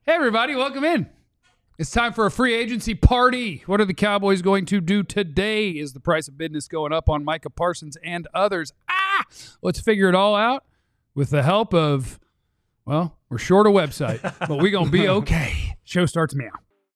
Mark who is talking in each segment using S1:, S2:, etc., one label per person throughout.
S1: Hey, everybody, welcome in. It's time for a free agency party. What are the Cowboys going to do today? Is the price of business going up on Micah Parsons and others? Let's figure it all out with the help of, well, we're short a website, but we're going to be okay. Show starts now.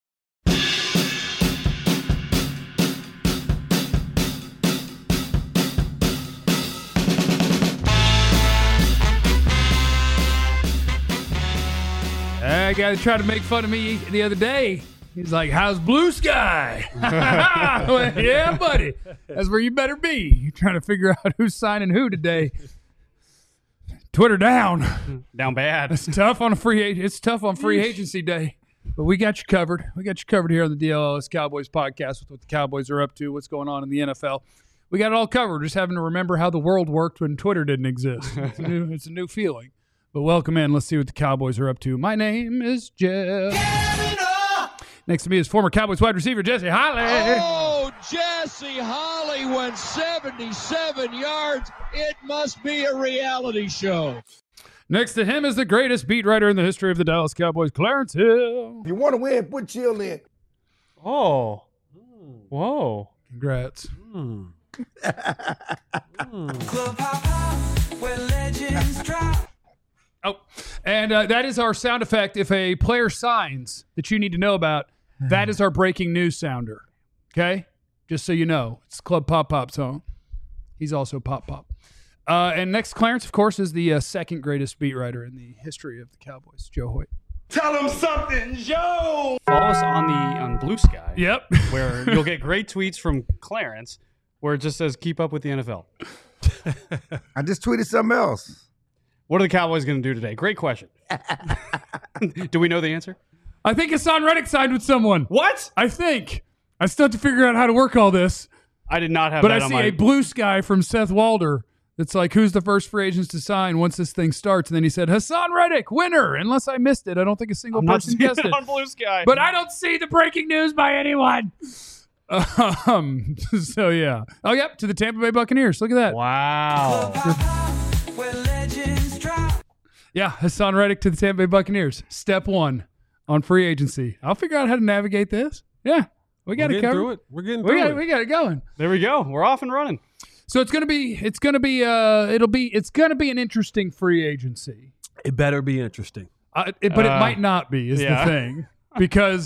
S1: That guy tried to make fun of me the other day. He's like, how's Blue Sky? Well, yeah, buddy. That's where you better be. You're trying to figure out who's signing who today. Twitter down.
S2: Down bad.
S1: It's tough on free agency day. But we got you covered. We got you covered here on the DLS Cowboys podcast with what the Cowboys are up to, what's going on in the NFL. We got it all covered. We're just having to remember how the world worked when Twitter didn't exist. It's a new feeling. But welcome in. Let's see what the Cowboys are up to. My name is Jeff. Next to me is former Cowboys wide receiver Jesse Holley.
S3: Oh, Jesse Holley went 77 yards. It must be a reality show.
S1: Next to him is the greatest beat writer in the history of the Dallas Cowboys, Clarence Hill.
S4: If you want to win, put chill in.
S2: Oh. Whoa.
S1: Congrats. Oh, and that is our sound effect. If a player signs that you need to know about, that is our breaking news sounder. Okay? Just so you know. It's Club Pop Pop's song. He's also Pop Pop. And next, Clarence, of course, is the second greatest beat writer in the history of the Cowboys, Joe Hoyt.
S4: Tell him something, Joe.
S2: Follow us on Blue Sky.
S1: Yep.
S2: Where you'll get great tweets from Clarence where it just says, keep up with the NFL.
S4: I just tweeted something else.
S2: What are the Cowboys going to do today? Great question. Do we know the answer?
S1: I think Hassan Reddick signed with someone.
S2: What?
S1: I think. I still have to figure out how to work all this.
S2: I did not have
S1: But
S2: that
S1: I
S2: on
S1: see
S2: my...
S1: a Blue Sky from Seth Walder. It's like, who's the first free agents to sign once this thing starts? And then he said, Hassan Reddick, winner. Unless I missed it. I don't think a single person guessed it.
S2: on Blue Sky.
S1: But I don't see the breaking news by anyone. So, yeah. Oh, yep, to the Tampa Bay Buccaneers. Look at that.
S2: Wow.
S1: Yeah, Hassan Reddick to the Tampa Bay Buccaneers. Step one on free agency. I'll figure out how to navigate this. Yeah, we got it covered.
S5: We're getting through it.
S1: We got it going.
S2: There we go. We're off and running.
S1: So it's gonna be an interesting free agency.
S5: It better be interesting.
S1: But it might not be is the thing because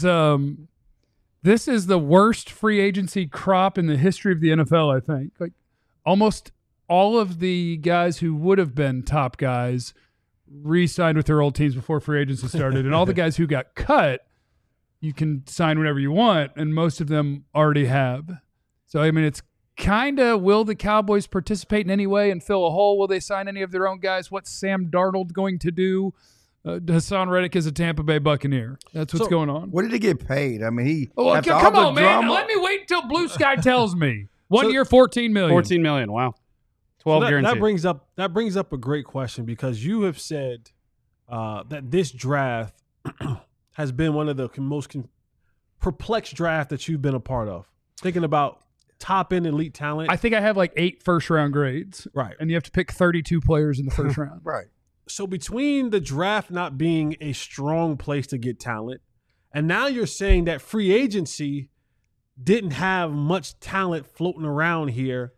S1: this is the worst free agency crop in the history of the NFL. I think like almost all of the guys who would have been top guys re-signed with their old teams before free agency started, and all the guys who got cut, you can sign whenever you want, and most of them already have. So I mean, it's kind of, will the Cowboys participate in any way and fill a hole? Will they sign any of their own guys? What's Sam Darnold going to do? Hassan Reddick is a Tampa Bay Buccaneer. That's what's going on.
S4: What did he get paid? I mean, he.
S1: Oh,
S4: after
S1: come
S4: all
S1: on,
S4: the
S1: man.
S4: drama-
S1: Let me wait until Blue Sky tells me. 1 year, $14 million.
S2: $14 million. Wow. 12 guaranteed.
S5: That brings up a great question because you have said that this draft has been one of the most perplexed draft that you've been a part of. Thinking about top end elite talent.
S1: I think I have like 8 first-round grades.
S5: Right.
S1: And you have to pick 32 players in the first round.
S4: Right.
S5: So between the draft not being a strong place to get talent, and now you're saying that free agency didn't have much talent floating around here.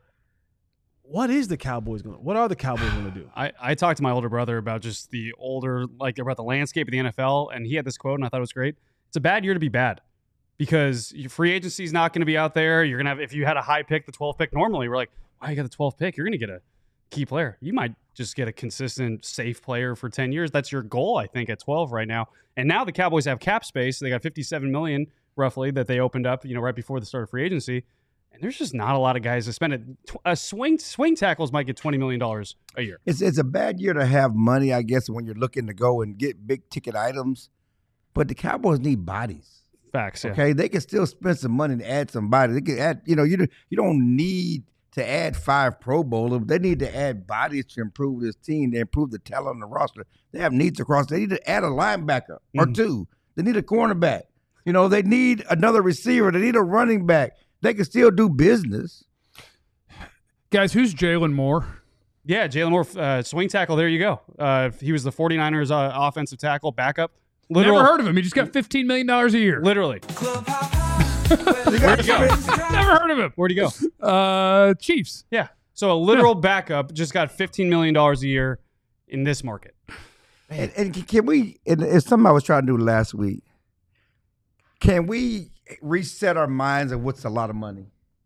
S5: What are the Cowboys going to do?
S2: I talked to my older brother about just about the landscape of the NFL, and he had this quote, and I thought it was great. It's a bad year to be bad because your free agency is not going to be out there. You're going to have, if you had a high pick, the 12th pick, normally we're like, wow, you got the 12th pick. You're going to get a key player. You might just get a consistent, safe player for 10 years. That's your goal, I think, at 12 right now. And now the Cowboys have cap space. They got $57 million roughly that they opened up, right before the start of free agency. And there's just not a lot of guys to spend it. Swing tackles might get $20 million a year.
S4: It's a bad year to have money, I guess, when you're looking to go and get big ticket items. But the Cowboys need bodies.
S2: Facts, yeah.
S4: Okay, they can still spend some money to add some bodies. They can add, you don't need to add 5 Pro Bowlers. They need to add bodies to improve this team, to improve the talent on the roster. They have needs across. They need to add a linebacker or 2. They need a cornerback. They need another receiver. They need a running back. They can still do business.
S1: Guys, who's Jalen Moore?
S2: Yeah, Jalen Moore, swing tackle. There you go. He was the 49ers offensive tackle backup Literal.
S1: Never heard of him. He just got $15 million a year.
S2: Literally.
S1: Never heard of him.
S2: Where'd he go?
S1: Chiefs.
S2: Yeah. So a literal backup just got $15 million a year in this market.
S4: And can we? And it's something I was trying to do last week. Can we reset our minds of what's a lot of money?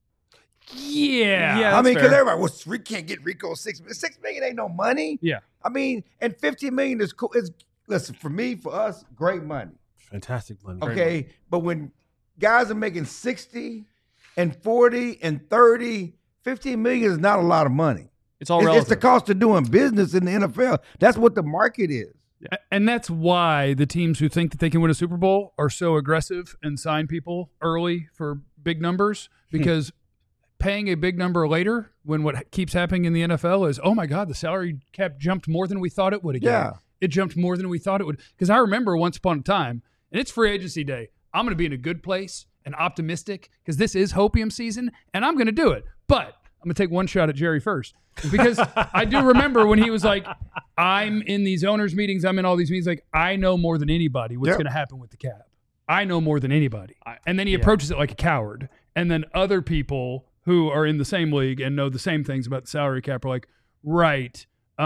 S1: Yeah.
S2: Yeah.
S4: I mean,
S2: fair.
S4: because everybody, well, we can't get Rico $6 million. $6 million ain't no money.
S2: Yeah.
S4: I mean, and $15 million is cool. Listen, for me, for us, great money.
S5: Fantastic money.
S4: Okay, but when guys are making 60 and 40 and 30, $15 million is not a lot of money.
S2: It's all
S4: It's
S2: relative.
S4: the cost of doing business in the NFL. That's what the market is.
S1: And that's why the teams who think that they can win a Super Bowl are so aggressive and sign people early for big numbers, because paying a big number later when what keeps happening in the NFL is, oh my God, the salary cap jumped more than we thought it would again.
S4: Yeah.
S1: It jumped more than we thought it would. Because I remember once upon a time, and it's free agency day, I'm going to be in a good place and optimistic because this is hopium season and I'm going to do it. But I'm going to take one shot at Jerry first, because I do remember when he was like, I'm in these owners meetings, I'm in all these meetings, like, I know more than anybody what's
S4: Yep.
S1: going to happen with the cap. I know more than anybody. And then he approaches it like a coward. And then other people who are in the same league and know the same things about the salary cap are like, right,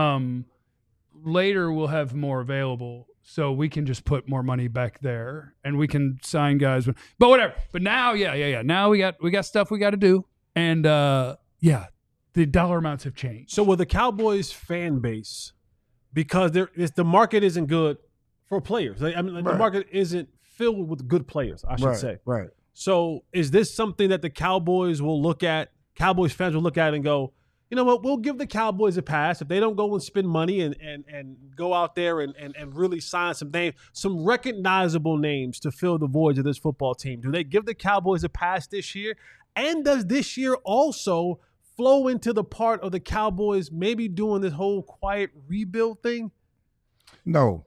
S1: later we'll have more available, so we can just put more money back there and we can sign guys. But whatever. But now, yeah. Now we got stuff we got to do. And the dollar amounts have changed.
S5: So with the Cowboys fan base, because the market isn't good for players. The market isn't filled with good players, I should say.
S4: Right.
S5: So is this something that the Cowboys will look at, Cowboys fans will look at and go, you know what, we'll give the Cowboys a pass if they don't go and spend money and go out there and really sign some names, some recognizable names to fill the voids of this football team. Do they give the Cowboys a pass this year? And does this year also flow into the part of the Cowboys maybe doing this whole quiet rebuild thing?
S4: No.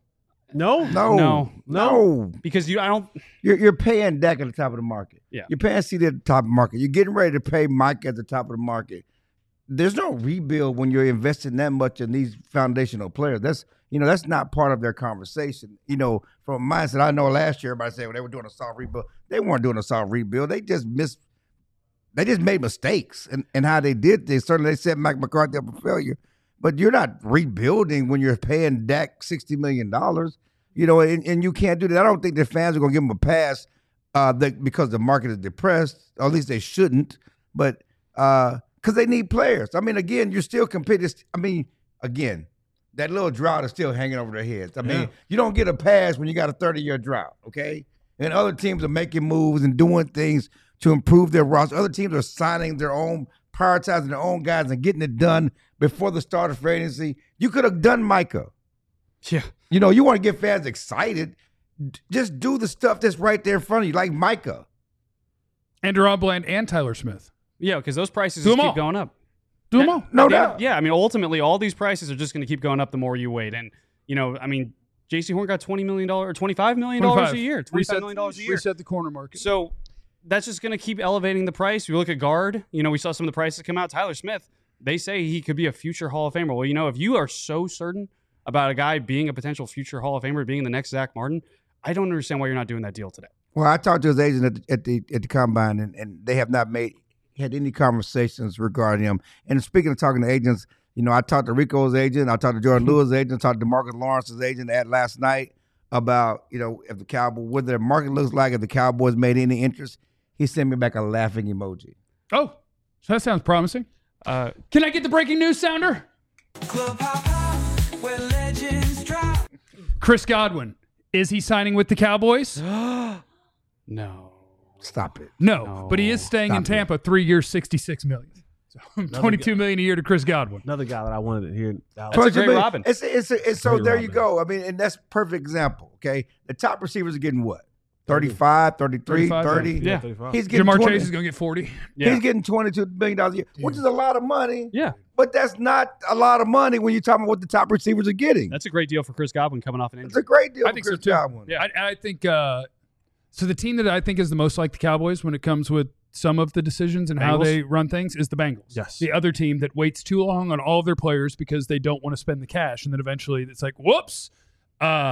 S5: No.
S2: Because
S4: You're paying Dak at the top of the market.
S2: Yeah.
S4: You're paying CD at the top of the market. You're getting ready to pay Mike at the top of the market. There's no rebuild when you're investing that much in these foundational players. That's not part of their conversation. From a mindset, I know last year everybody said they were doing a soft rebuild. They weren't doing a soft rebuild. They just made mistakes in how they did this. Certainly they set Mike McCarthy up for failure. But you're not rebuilding when you're paying Dak $60 million. And you can't do that. I don't think the fans are going to give him a pass because the market is depressed. Or at least they shouldn't. But because they need players. I mean, again, you're still competing. I mean, again, that little drought is still hanging over their heads. I mean, you don't get a pass when you got a 30-year drought, okay? And other teams are making moves and doing things to improve their roster. Other teams are signing their own, prioritizing their own guys and getting it done before the start of free agency. You could have done Micah.
S2: Yeah.
S4: You want to get fans excited. Just do the stuff that's right there in front of you, like Micah.
S1: And Deron Bland and Tyler Smith.
S2: Yeah, because those prices
S1: Do
S2: just
S1: them
S2: keep
S1: all.
S2: going up.
S1: Do them all.
S4: No doubt.
S2: Yeah, I mean, ultimately, all these prices are just going to keep going up the more you wait. And, J.C. Horn got $20 million or $25 million a year. $25 million a year.
S1: Reset the corner market.
S2: So that's just going to keep elevating the price. You look at guard, we saw some of the prices come out. Tyler Smith, they say he could be a future Hall of Famer. Well, if you are so certain about a guy being a potential future Hall of Famer, being the next Zach Martin, I don't understand why you're not doing that deal today.
S4: Well, I talked to his agent at the combine, and they have not had any conversations regarding him. And speaking of talking to agents, I talked to Rico's agent, I talked to Jordan Lewis' agent, I talked to DeMarcus Lawrence's agent last night about, if the Cowboys, what their market looks like, if the Cowboys made any interest. He sent me back a laughing emoji.
S1: Oh, so that sounds promising. Can I get the breaking news sounder? Chris Godwin, is he signing with the Cowboys?
S2: No.
S4: Stop it.
S1: No, but he is staying in Tampa 3 years, $66 million. So $22 million a year to Chris Godwin.
S5: Another guy that I wanted to hear.
S2: That's a great Robin.
S4: It's so there you go. I mean, and that's a perfect example, okay? The top receivers are getting what? 35, 33, 30.
S2: Yeah.
S4: He's getting
S1: Jamar
S4: 20.
S1: Chase is going to get 40.
S2: Yeah.
S4: He's getting $22 million a year, which is a lot of money.
S2: Yeah.
S4: But that's not a lot of money when you're talking about what the top receivers are getting.
S2: That's a great deal for Chris Godwin coming off an
S4: It's
S2: injury.
S4: a great deal
S1: I
S4: for
S1: think
S4: Chris
S1: so too.
S4: Godwin.
S2: Yeah.
S1: I think so. The team that I think is the most like the Cowboys when it comes with some of the decisions and how
S2: Bengals?
S1: they run things is the Bengals.
S5: Yes.
S1: The other team that waits too long on all of their players because they don't want to spend the cash, and then eventually it's like, whoops.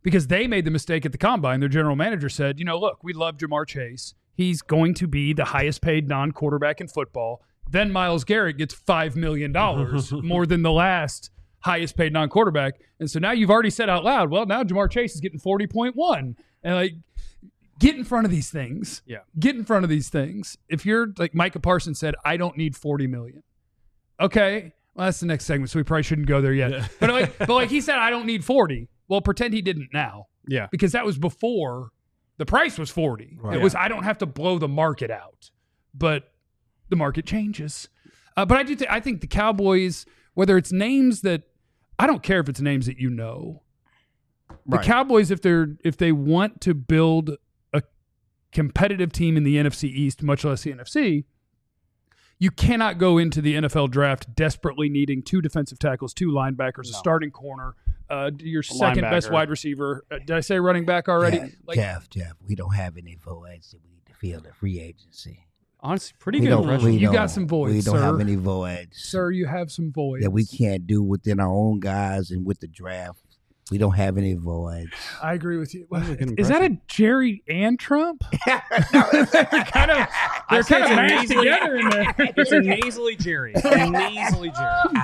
S1: because they made the mistake at the combine. Their general manager said, look, we love Jamar Chase. He's going to be the highest paid non-quarterback in football. Then Myles Garrett gets $5 million more than the last highest paid non-quarterback. And so now you've already said out loud, well, now Jamar Chase is getting 40.1. And get in front of these things.
S2: Yeah.
S1: Get in front of these things. If you're like Micah Parsons said, I don't need $40 million. Okay. Well, that's the next segment, so we probably shouldn't go there yet. Yeah. But he said, I don't need 40. Well, pretend he didn't now.
S2: Yeah.
S1: Because that was before the price was 40. Right. It was, I don't have to blow the market out. But the market changes. But I think the Cowboys, whether it's names that, I don't care if it's names that the Cowboys, if they want to build a competitive team in the NFC East, much less the NFC, you cannot go into the NFL draft desperately needing 2 defensive tackles, 2 linebackers, a starting corner, your second best wide receiver. Did I say running back already?
S4: Jeff, we don't have any voids that we need to fill the free agency.
S2: Honestly, pretty good impression.
S1: You got some voids,
S4: We don't
S1: sir.
S4: have any voids.
S1: Sir, you have some voids.
S4: That we can't do within our own guys and with the draft. We don't have any voids.
S1: I agree with you. Is that a Jerry and Trump? they're kind of mashed together in there.
S2: It's a nasally Jerry. Nasally Jerry.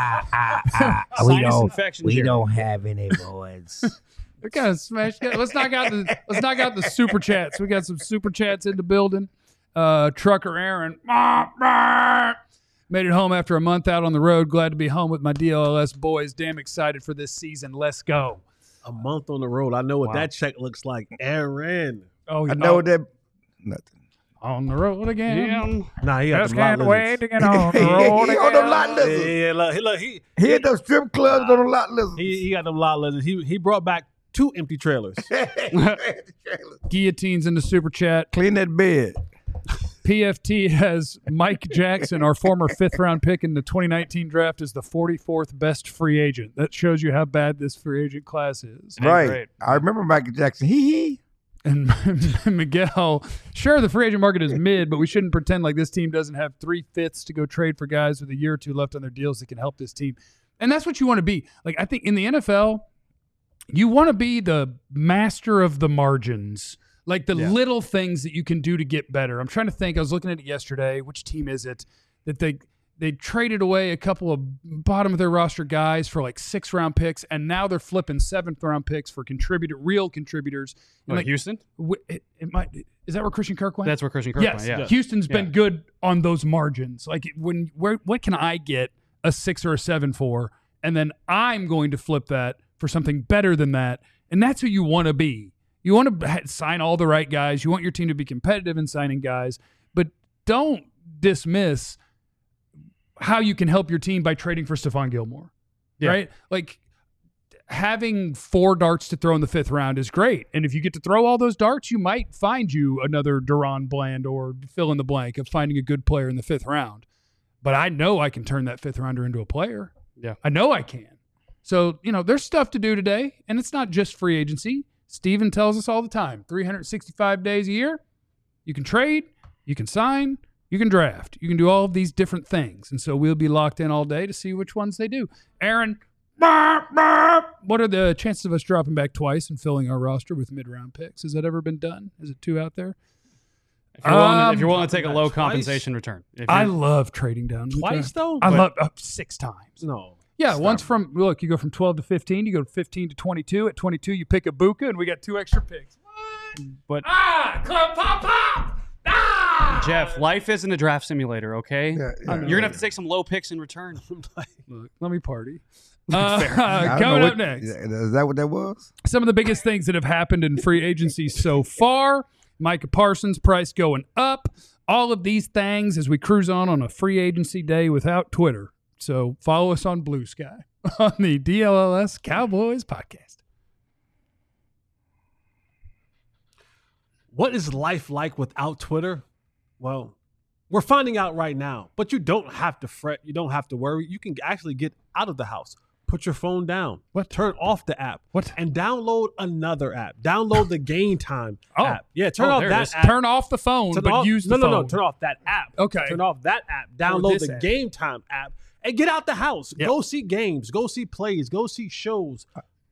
S4: We don't have any voids.
S1: We kind of smashed. Let's knock out the super chats. We got some super chats in the building. Trucker Aaron made it home after a month out on the road. Glad to be home with my DLLS boys. Damn excited for this season. Let's go.
S5: A month on the road. I know what that check looks like. Aaron.
S4: Oh, I know that. Nothing.
S1: On the road again.
S5: Nah, he got
S1: just
S5: them lot
S1: can't
S5: lizards.
S1: wait to get on the road
S4: He
S1: again.
S4: on them lot lizards.
S5: Yeah, look, he
S4: hit those strip clubs on them lot lizards.
S5: He got them lot lizards. He brought back 2 empty trailers.
S1: Guillotines in the super chat.
S4: Clean that bed.
S1: PFT has Mike Jackson, our former 5th-round pick in the 2019 draft, as the 44th best free agent. That shows you how bad this free agent class is.
S4: Right.
S2: Great.
S4: I remember Michael Jackson. Hee.
S1: And Miguel, sure, the free agent market is mid, but we shouldn't pretend like this team doesn't have 3/5 to go trade for guys with a year or 2 left on their deals that can help this team. And that's what you want to be. Like, I think in the NFL, you want to be the master of the margins. Like the little things that you can do to get better. I'm trying to think. I was looking at it yesterday. Which team is it that they traded away a couple of bottom of their roster guys for like 6th-round picks, and now they're flipping 7th-round picks for real contributors. And like,
S2: Houston?
S1: It might. Is that where Christian Kirk went?
S2: That's where Christian Kirk went. Yeah.
S1: Houston's been good on those margins. Like what can I get a 6 or a 7 for, and then I'm going to flip that for something better than that, and that's who you want to be. You want to sign all the right guys. You want your team to be competitive in signing guys, but don't dismiss how you can help your team by trading for Stephon Gilmore, right? Like having 4 darts to throw in the 5th round is great. And if you get to throw all those darts, you might find you another Deron Bland or fill in the blank of finding a good player in the 5th round. But I know I can turn that 5th rounder into a player.
S2: Yeah.
S1: I know I can. So, there's stuff to do today, and it's not just free agency. Steven tells us all the time, 365 days a year, you can trade, you can sign, you can draft. You can do all of these different things. And so we'll be locked in all day to see which ones they do. Aaron, what are the chances of us dropping back twice and filling our roster with mid-round picks? Has that ever been done? Is it 2 out there?
S2: If you're willing to take a low compensation return.
S1: I love trading down.
S5: Twice, though?
S1: I love 6 times.
S5: No.
S1: Yeah, once you go from 12 to 15, you go 15 to 22. At 22, you pick a Buka, and we got 2 extra picks.
S2: But
S1: Club pop!
S2: Jeff, life isn't a draft simulator, okay?
S4: Yeah,
S2: You're going to have to take some low picks in return.
S1: Look, let me party.
S4: I don't
S1: Coming
S4: know
S1: up next.
S4: Is that what that was?
S1: Some of the biggest things that have happened in free agency so far. Micah Parsons' price going up. All of these things as we cruise on a free agency day without Twitter. So follow us on Blue Sky on the DLLS Cowboys podcast.
S5: What is life like without Twitter? Well, we're finding out right now, but you don't have to fret. You don't have to worry. You can actually get out of the house. Put your phone down. Turn off the app. And download another app. Download the Game Time app. Yeah, turn off that app.
S1: Turn off the phone, use the phone.
S5: No. Turn off that app.
S1: Okay.
S5: Turn off that app. Download the Game Time app and get out the house.
S1: Yep.
S5: Go see games. Go see plays. Go see shows.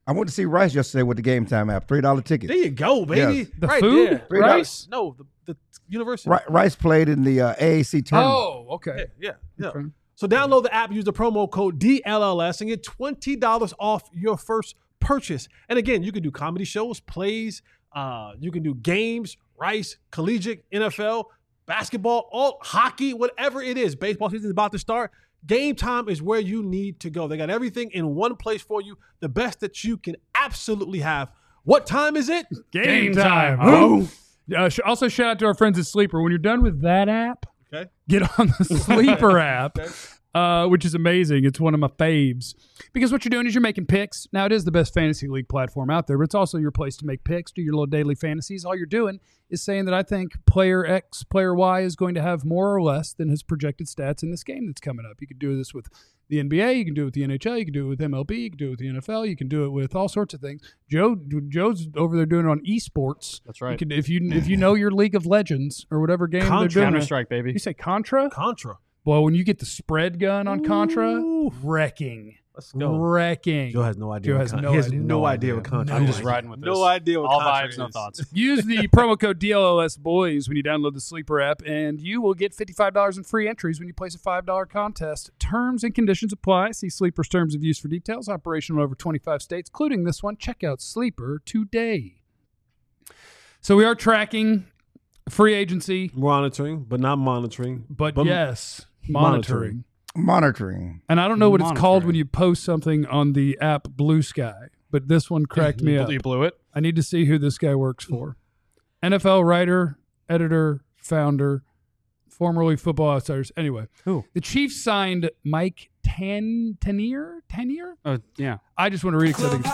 S4: I went to see Rice yesterday with the Game Time app. $3 tickets.
S5: There you go, baby.
S4: Yes.
S1: The
S5: right
S1: food?
S5: there.
S1: Rice?
S5: No, the university.
S4: Rice played in the AAC tournament.
S1: Oh, okay.
S5: Yeah.
S1: Okay.
S5: So download the app, use the promo code DLLS, and get $20 off your first purchase. And again, you can do comedy shows, plays, you can do games, Rice, collegiate, NFL, basketball, all hockey, whatever it is. Baseball season is about to start. Game Time is where you need to go. They got everything in one place for you, the best that you can absolutely have. What time is it?
S1: Game time.
S2: Oh.
S1: Also, shout out to our friends at Sleeper. When you're done with that app,
S5: Okay.
S1: get on the Sleeper app, which is amazing. It's one of my faves. Because what you're doing is you're making picks. Now, it is the best fantasy league platform out there, but it's also your place to make picks, do your little daily fantasies. All you're doing is saying that I think player X, player Y is going to have more or less than his projected stats in this game that's coming up. You could do this with the NBA, you can do it with the NHL, you can do it with MLB, you can do it with the NFL, you can do it with all sorts of things. Joe's over there doing it on esports.
S2: That's right.
S1: You can, if you know your League of Legends or whatever game they're doing.
S2: Counter-Strike, baby.
S1: You say Contra?
S5: Contra.
S1: Well, when you get the spread gun on Contra,
S5: Ooh.
S1: wrecking.
S5: Let's go.
S1: Wrecking.
S5: Joe has no idea.
S1: Joe
S5: what
S1: has
S5: Contra-
S1: no
S5: he has
S1: idea.
S5: no idea what Contra
S2: I'm
S5: is.
S2: just riding with this.
S5: No idea what
S2: All
S5: Contra
S2: vibes, no
S5: is.
S2: thoughts.
S1: Use the promo code DLLS Boys when you download the Sleeper app, and you will get $55 in free entries when you place a $5 contest. Terms and conditions apply. See Sleeper's terms of use for details. Operational in over 25 states, including this one. Check out Sleeper today. So we are tracking free agency,
S5: Monitoring, but not monitoring.
S1: but yes, monitoring.
S4: Monitoring.
S1: And I don't know what it's called
S2: Monitoring.
S1: when you post something on the app Blue Sky, but this one cracked me up.
S2: You blew it.
S1: I need to see who this guy works for. NFL writer, editor, founder, formerly Football Outsiders. Anyway,
S2: Who?
S1: the Chiefs signed Mike Tanier?
S2: Yeah.
S1: I just want to read it because I think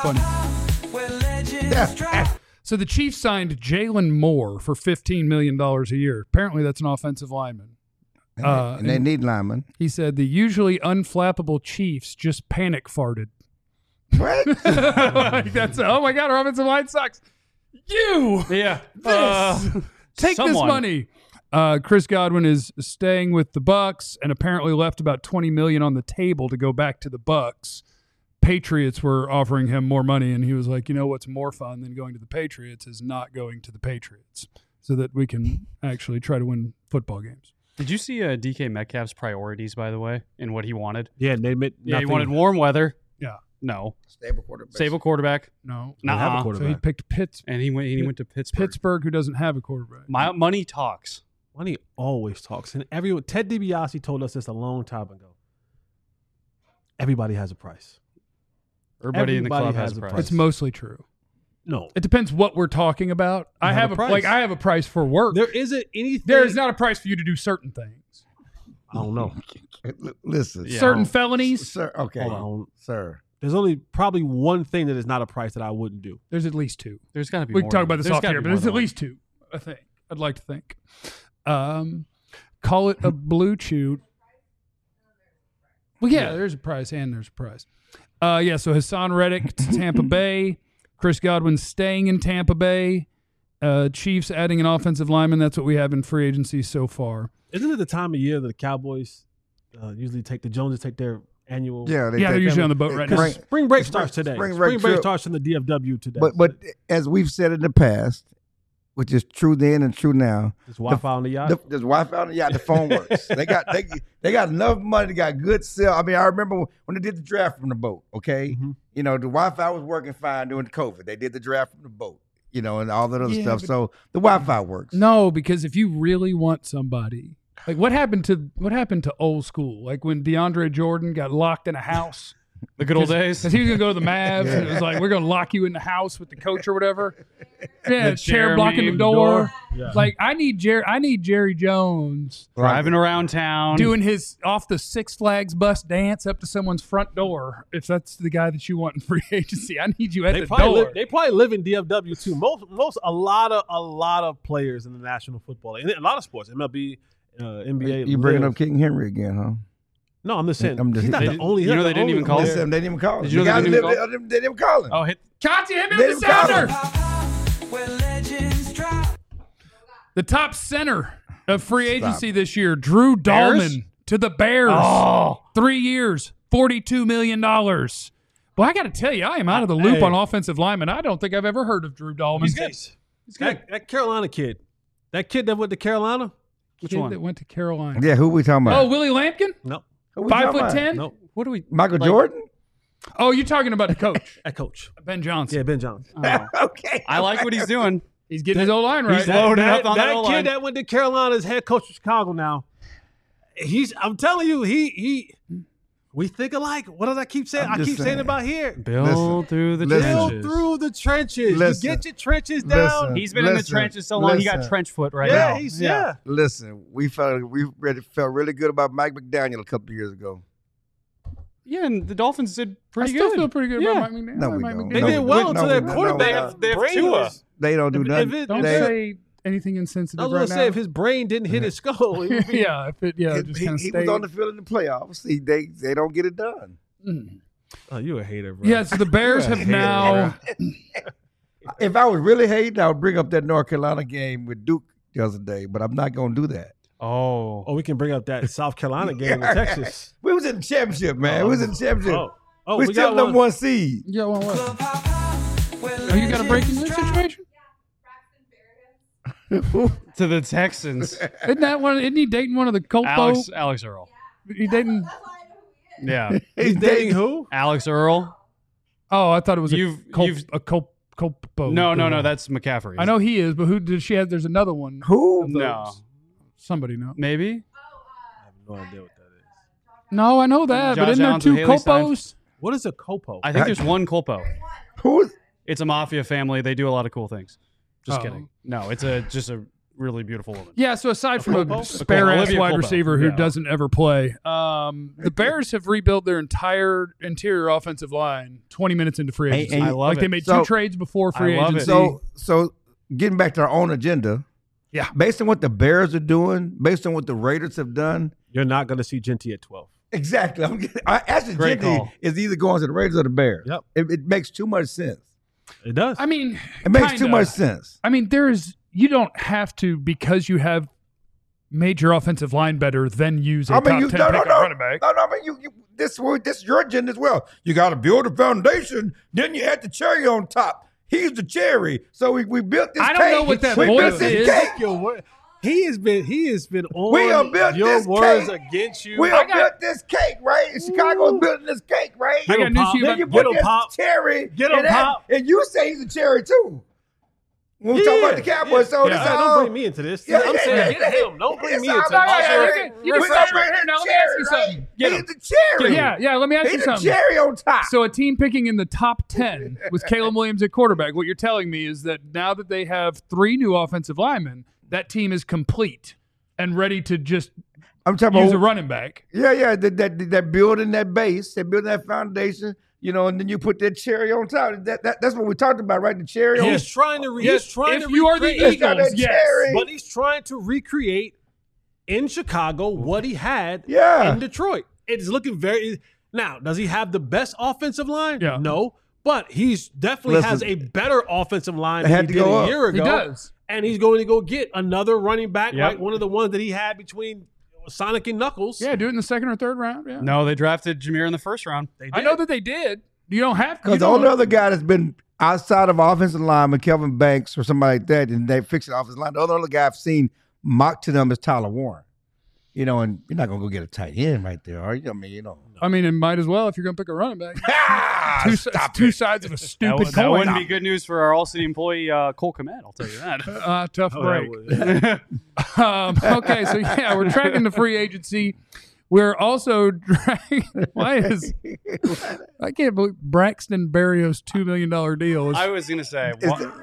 S1: it's funny. So the Chiefs signed Jalen Moore for $15 million a year. Apparently that's an offensive lineman.
S4: And they need linemen.
S1: He said the usually unflappable Chiefs just panic farted.
S4: What?
S1: Like that's, oh my God, our offensive line sucks. You
S2: Yeah.
S1: take this
S2: someone.
S1: money. Chris Godwin is staying with the Bucks and apparently left about $20 million on the table to go back to the Bucks. Patriots were offering him more money, and he was like, you know what's more fun than going to the Patriots is not going to the Patriots, so that we can actually try to win football games.
S2: Did you see DK Metcalf's priorities, by the way, and what he wanted?
S5: Yeah, they admit
S2: Yeah, he
S5: nothing.
S2: wanted warm weather.
S1: Yeah.
S2: No.
S4: Stable quarterback.
S2: Stable quarterback.
S1: No.
S5: They have a
S2: Nuh-uh.
S5: quarterback.
S1: So he picked
S2: And he went to Pittsburgh.
S1: Pittsburgh, who doesn't have a quarterback.
S2: My money talks.
S5: Money always talks, and everyone. Ted DiBiase told us this a long time ago. Everybody has a price.
S2: Everybody in the
S5: Everybody
S2: club
S5: has
S2: has a
S5: a
S2: price.
S5: price.
S1: It's mostly true.
S5: No,
S1: It depends what we're talking about. I
S5: have
S1: have
S5: a
S1: a
S5: price.
S1: I have a price for work.
S5: there isn't anything.
S1: There is not a price for you to do certain things.
S5: I don't know.
S4: Listen.
S2: Yeah.
S1: Certain felonies,
S4: Sir, okay.
S5: Hold on.
S4: Sir.
S5: There's only probably one thing that is not a price that I wouldn't do.
S1: there's at least two.
S2: There's got to be
S1: We
S2: more
S1: can talk
S2: than-
S1: about this
S2: there's
S1: off
S2: gotta
S1: here,
S2: be
S1: but
S2: more
S1: there's
S2: than
S1: at
S2: one.
S1: least two, I think. I'd like to think. Call it a blue chew. Well, yeah, there's a price and there's a price. Yeah, so Hassan Reddick to Tampa Bay. Chris Godwin staying in Tampa Bay. Chiefs adding an offensive lineman. That's what we have in free agency so far.
S5: Isn't it the time of year that the Cowboys usually take the Joneses take their annual?
S4: Yeah,
S1: They're usually on the boat right now.
S5: Because spring break starts today.
S4: spring
S5: Spring
S4: break
S5: break
S4: trip.
S5: starts in the DFW today.
S4: But as we've said in the past, which is true then and true now,
S5: there's Wi-Fi on the yacht.
S4: there's Wi-Fi on the yacht. The phone works. They got enough money. They got good cell. I mean, I remember when they did the draft from the boat. Okay,
S5: Mhm.
S4: you know the Wi-Fi was working fine during COVID. They did the draft from the boat. You know, and all that other
S1: Yeah,
S4: stuff.
S1: but-
S4: So the Wi-Fi works.
S1: No, because if you really want somebody, like what happened to old school? Like when DeAndre Jordan got locked in a house.
S2: The good old days.
S1: Because he was going to go to the Mavs, and it was like, we're going to lock you in the house with the coach or whatever. Yeah,
S2: The
S1: chair
S2: chair
S1: blocking the
S2: meme
S1: door.
S5: Yeah.
S1: Like, I need Jerry Jones
S2: Driving around town.
S1: doing his off the Six Flags bus dance up to someone's front door. If that's the guy that you want in free agency, I need you at the door.
S5: They probably live in DFW too. A lot of players in the National Football League, and a lot of sports, MLB, NBA.
S4: You bringing
S5: live.
S4: up King Henry again, huh?
S5: No, I'm just saying.
S4: I'm just-
S5: he's not
S2: They
S5: the
S2: did-
S5: only.
S2: you know
S5: he's not
S2: they
S5: the
S2: didn't even
S5: only
S2: call
S5: player.
S2: it?
S4: Listen, they didn't even call him.
S2: Did you know
S4: The
S2: they
S4: guys
S2: didn't even
S4: lived- they didn't even call him.
S2: Oh, hit.
S1: Conti, hit me
S4: They
S1: with the
S4: didn't call
S1: sounder.
S4: him.
S1: The top center of free agency this year, Drew Dahlman to the Bears.
S2: Oh.
S1: 3 years, $42 million. Well, I got to tell you, I am out of the loop
S5: Hey.
S1: on offensive linemen. I don't think I've ever heard of Drew Dahlman.
S2: He's good. He's good.
S5: That Carolina kid. That kid that went to Carolina?
S2: Which
S1: Kid
S2: one?
S1: that went to Carolina.
S4: Yeah, who we talking
S1: Oh,
S4: about?
S1: Willie Lampkin?
S5: No.
S4: Who we talking about?
S1: 5'10"?
S5: No.
S2: What do we?
S4: Michael
S2: like-
S4: Jordan?
S1: Oh, you're talking about the coach,
S5: That coach.
S1: Ben Johnson.
S5: Yeah, Ben Johnson.
S2: Oh.
S4: Okay.
S2: I like what he's doing.
S1: He's getting his old line right.
S2: He's loaded up on that
S5: that
S2: O-line.
S5: kid that went to Carolina is head coach of Chicago now. I'm telling you, we think alike. What does I keep saying?
S4: I'm
S5: I
S4: just
S5: keep saying
S4: saying.
S5: about here.
S2: Build through the
S4: Listen.
S5: Build
S2: trenches.
S5: through the trenches.
S4: Listen.
S5: You get your trenches down.
S4: Listen.
S2: He's been in the trenches so long. He got
S4: listen.
S2: trench foot right
S5: yeah,
S2: now.
S5: he's yeah.
S4: Listen, we felt really good about Mike McDaniel a couple of years ago.
S2: Yeah, and the Dolphins did
S1: I
S2: pretty
S1: still
S2: good.
S1: feel pretty good
S2: Yeah.
S1: about Mike McDaniel.
S4: No, we
S1: Mike
S4: don't.
S5: They
S1: McDaniel.
S5: did well until their
S4: we don't.
S5: quarterback.
S2: They have
S5: brain
S2: Tua.
S5: was-
S4: They don't do
S5: If
S4: nothing.
S5: it-
S1: Don't
S4: They-
S1: say anything insensitive
S5: I was
S1: right
S5: gonna say
S1: now.
S5: if his brain didn't hit his skull, he would be-
S1: yeah, if it, yeah, just
S4: he
S1: kind of
S4: was on the field in the playoffs. They don't get it done.
S5: Oh, you a hater, bro.
S1: Yeah, so the Bears have now.
S4: If I was really hating, I would bring up that North Carolina game with Duke the other day, but I'm not going to do that.
S2: Oh.
S5: Oh, we can bring up that South Carolina game in Texas.
S4: We was in the championship, man. We was in the championship.
S5: Oh,
S4: we
S5: we
S4: still
S5: got
S4: number
S5: one.
S4: one seed.
S1: Yeah, well, what? Oh, you got a breaking news situation?
S2: To the Texans.
S1: Isn't that one? Isn't he dating one of the Colpo?
S2: Alex Earl.
S1: He dating?
S2: Yeah.
S5: He's dating who?
S2: Alex Earl.
S1: Oh, I thought it was
S2: You've-
S1: Colpo.
S2: No, that's McCaffrey.
S1: I know he is, but who does she have? There's another one.
S4: Who?
S1: of
S2: No.
S1: those. Somebody know.
S2: Maybe?
S5: I have no idea what that is.
S1: No, I know that, but
S2: Josh
S1: isn't there
S2: Allen's
S1: two
S2: and Haley
S1: Colpos?
S5: What is a copo?
S2: I think there's one Colpo.
S4: Who?
S2: It's a mafia family. They do a lot of cool things. Just
S1: Oh.
S2: kidding. No, it's just a really beautiful woman.
S1: Yeah, so aside from
S5: Colpo?
S1: a spare ass
S2: Olivia
S1: wide
S2: Colpo.
S1: receiver who
S2: Yeah.
S1: doesn't ever play, the Bears have rebuilt their entire interior offensive line 20 minutes into free
S4: And-
S1: agency.
S4: and-
S2: I love
S1: like they
S2: it.
S1: made
S4: So-
S1: two trades before free
S2: I love it.
S1: agency.
S4: So getting back to our own agenda.
S1: Yeah.
S4: Based on what the Bears are doing, based on what the Raiders have done.
S5: You're not going to see Genty at 12.
S4: Exactly. Ashton
S2: Great
S4: Genty
S2: call.
S4: is either going to the Raiders or the Bears.
S5: Yep.
S4: It makes too much sense.
S5: It does.
S1: I mean,
S4: It makes
S1: kinda.
S4: too much sense.
S1: I mean, you don't have to, because you have made your offensive line better, then use a top 10 pick on running back.
S4: No, I mean, this is your agenda as well. You got to build a foundation, then you add the cherry on top. He's the cherry. So we built this
S1: I
S4: cake.
S1: don't know what that
S4: we
S1: voice
S4: built this
S1: is.
S4: cake.
S5: Your word. He has been on
S4: We have built
S5: your
S4: this
S5: words
S4: cake.
S5: against you.
S4: We have built this cake, right? Chicago's building this cake, right?
S1: I got
S5: him,
S1: news
S5: Pop.
S1: to you
S4: Then
S1: about
S4: you
S5: Get
S4: put
S5: him,
S4: this
S5: Pop.
S4: cherry.
S5: Get him,
S4: and that-
S5: Pop.
S4: And you say he's a cherry too. When we talk about the Cowboys, so
S1: Yeah.
S4: this
S5: Yeah,
S4: is
S5: don't
S4: all-
S5: bring me into this.
S4: Yeah,
S5: I'm
S4: yeah,
S5: saying
S4: yeah.
S5: get him. Don't bring
S4: It's
S5: me
S4: all
S5: into
S4: about-
S5: this.
S4: yeah,
S1: Also,
S4: yeah,
S1: you can
S4: we
S1: stop
S4: got
S1: right here. Now, let me ask you
S4: cherry,
S1: something.
S4: right?
S2: Get
S4: He's
S2: him.
S4: the cherry.
S1: Yeah, let me ask you
S4: He's the
S1: something.
S4: cherry on top.
S1: So a team picking in the top 10 with Caleb Williams at quarterback, what you're telling me is that now that they have 3 new offensive linemen, that team is complete and ready to just
S4: I'm talking
S1: use a
S4: about
S1: running back.
S4: yeah. That building that base, that building that foundation, and then you put that cherry on top. That's what we talked about, right? The cherry on
S5: He's trying to.
S1: Yes,
S5: He's trying
S1: if
S5: to
S1: you are the
S5: recreate-
S4: It's got
S1: Eagles,
S4: that
S1: yes.
S4: cherry.
S5: but he's trying to recreate in Chicago what he had
S4: Yeah.
S5: in Detroit. It is looking very. Now, does he have the best offensive line?
S1: Yeah.
S5: No, but he's definitely
S4: Listen,
S5: has a better offensive line
S4: they
S5: than
S4: had
S5: he
S4: to
S5: did
S4: go
S5: a
S4: up.
S5: year
S1: He
S5: ago.
S1: does.
S5: And he's going to go get another running back,
S2: Yep.
S5: like one of the ones that he had between Sonic and Knuckles.
S1: Yeah, do it in the second or third round. Yeah.
S2: No, they drafted Jameer in the first round.
S5: They did.
S1: I know that they did. You don't have to.
S4: Because the only other guy that's been outside of offensive lineman, Kelvin Banks or somebody like that, and they fix the offensive line. The other guy I've seen mocked to them is Tyler Warren. And you're not gonna go get a tight end right there, are you? I mean,
S1: I mean, it might as well if you're going to pick a running back.
S4: Stop
S1: two
S4: it.
S1: sides of a
S2: That,
S1: stupid
S2: that
S1: coin.
S2: wouldn't be good news for our all-city employee Cole Komet. I'll tell you that.
S1: Tough
S5: Oh,
S1: break.
S5: that was-
S1: Okay, so yeah, we're tracking the free agency. We're also tracking. I can't believe Braxton Berrios' $2 million deal is.
S2: I was gonna say.
S4: Is
S2: what-
S4: it-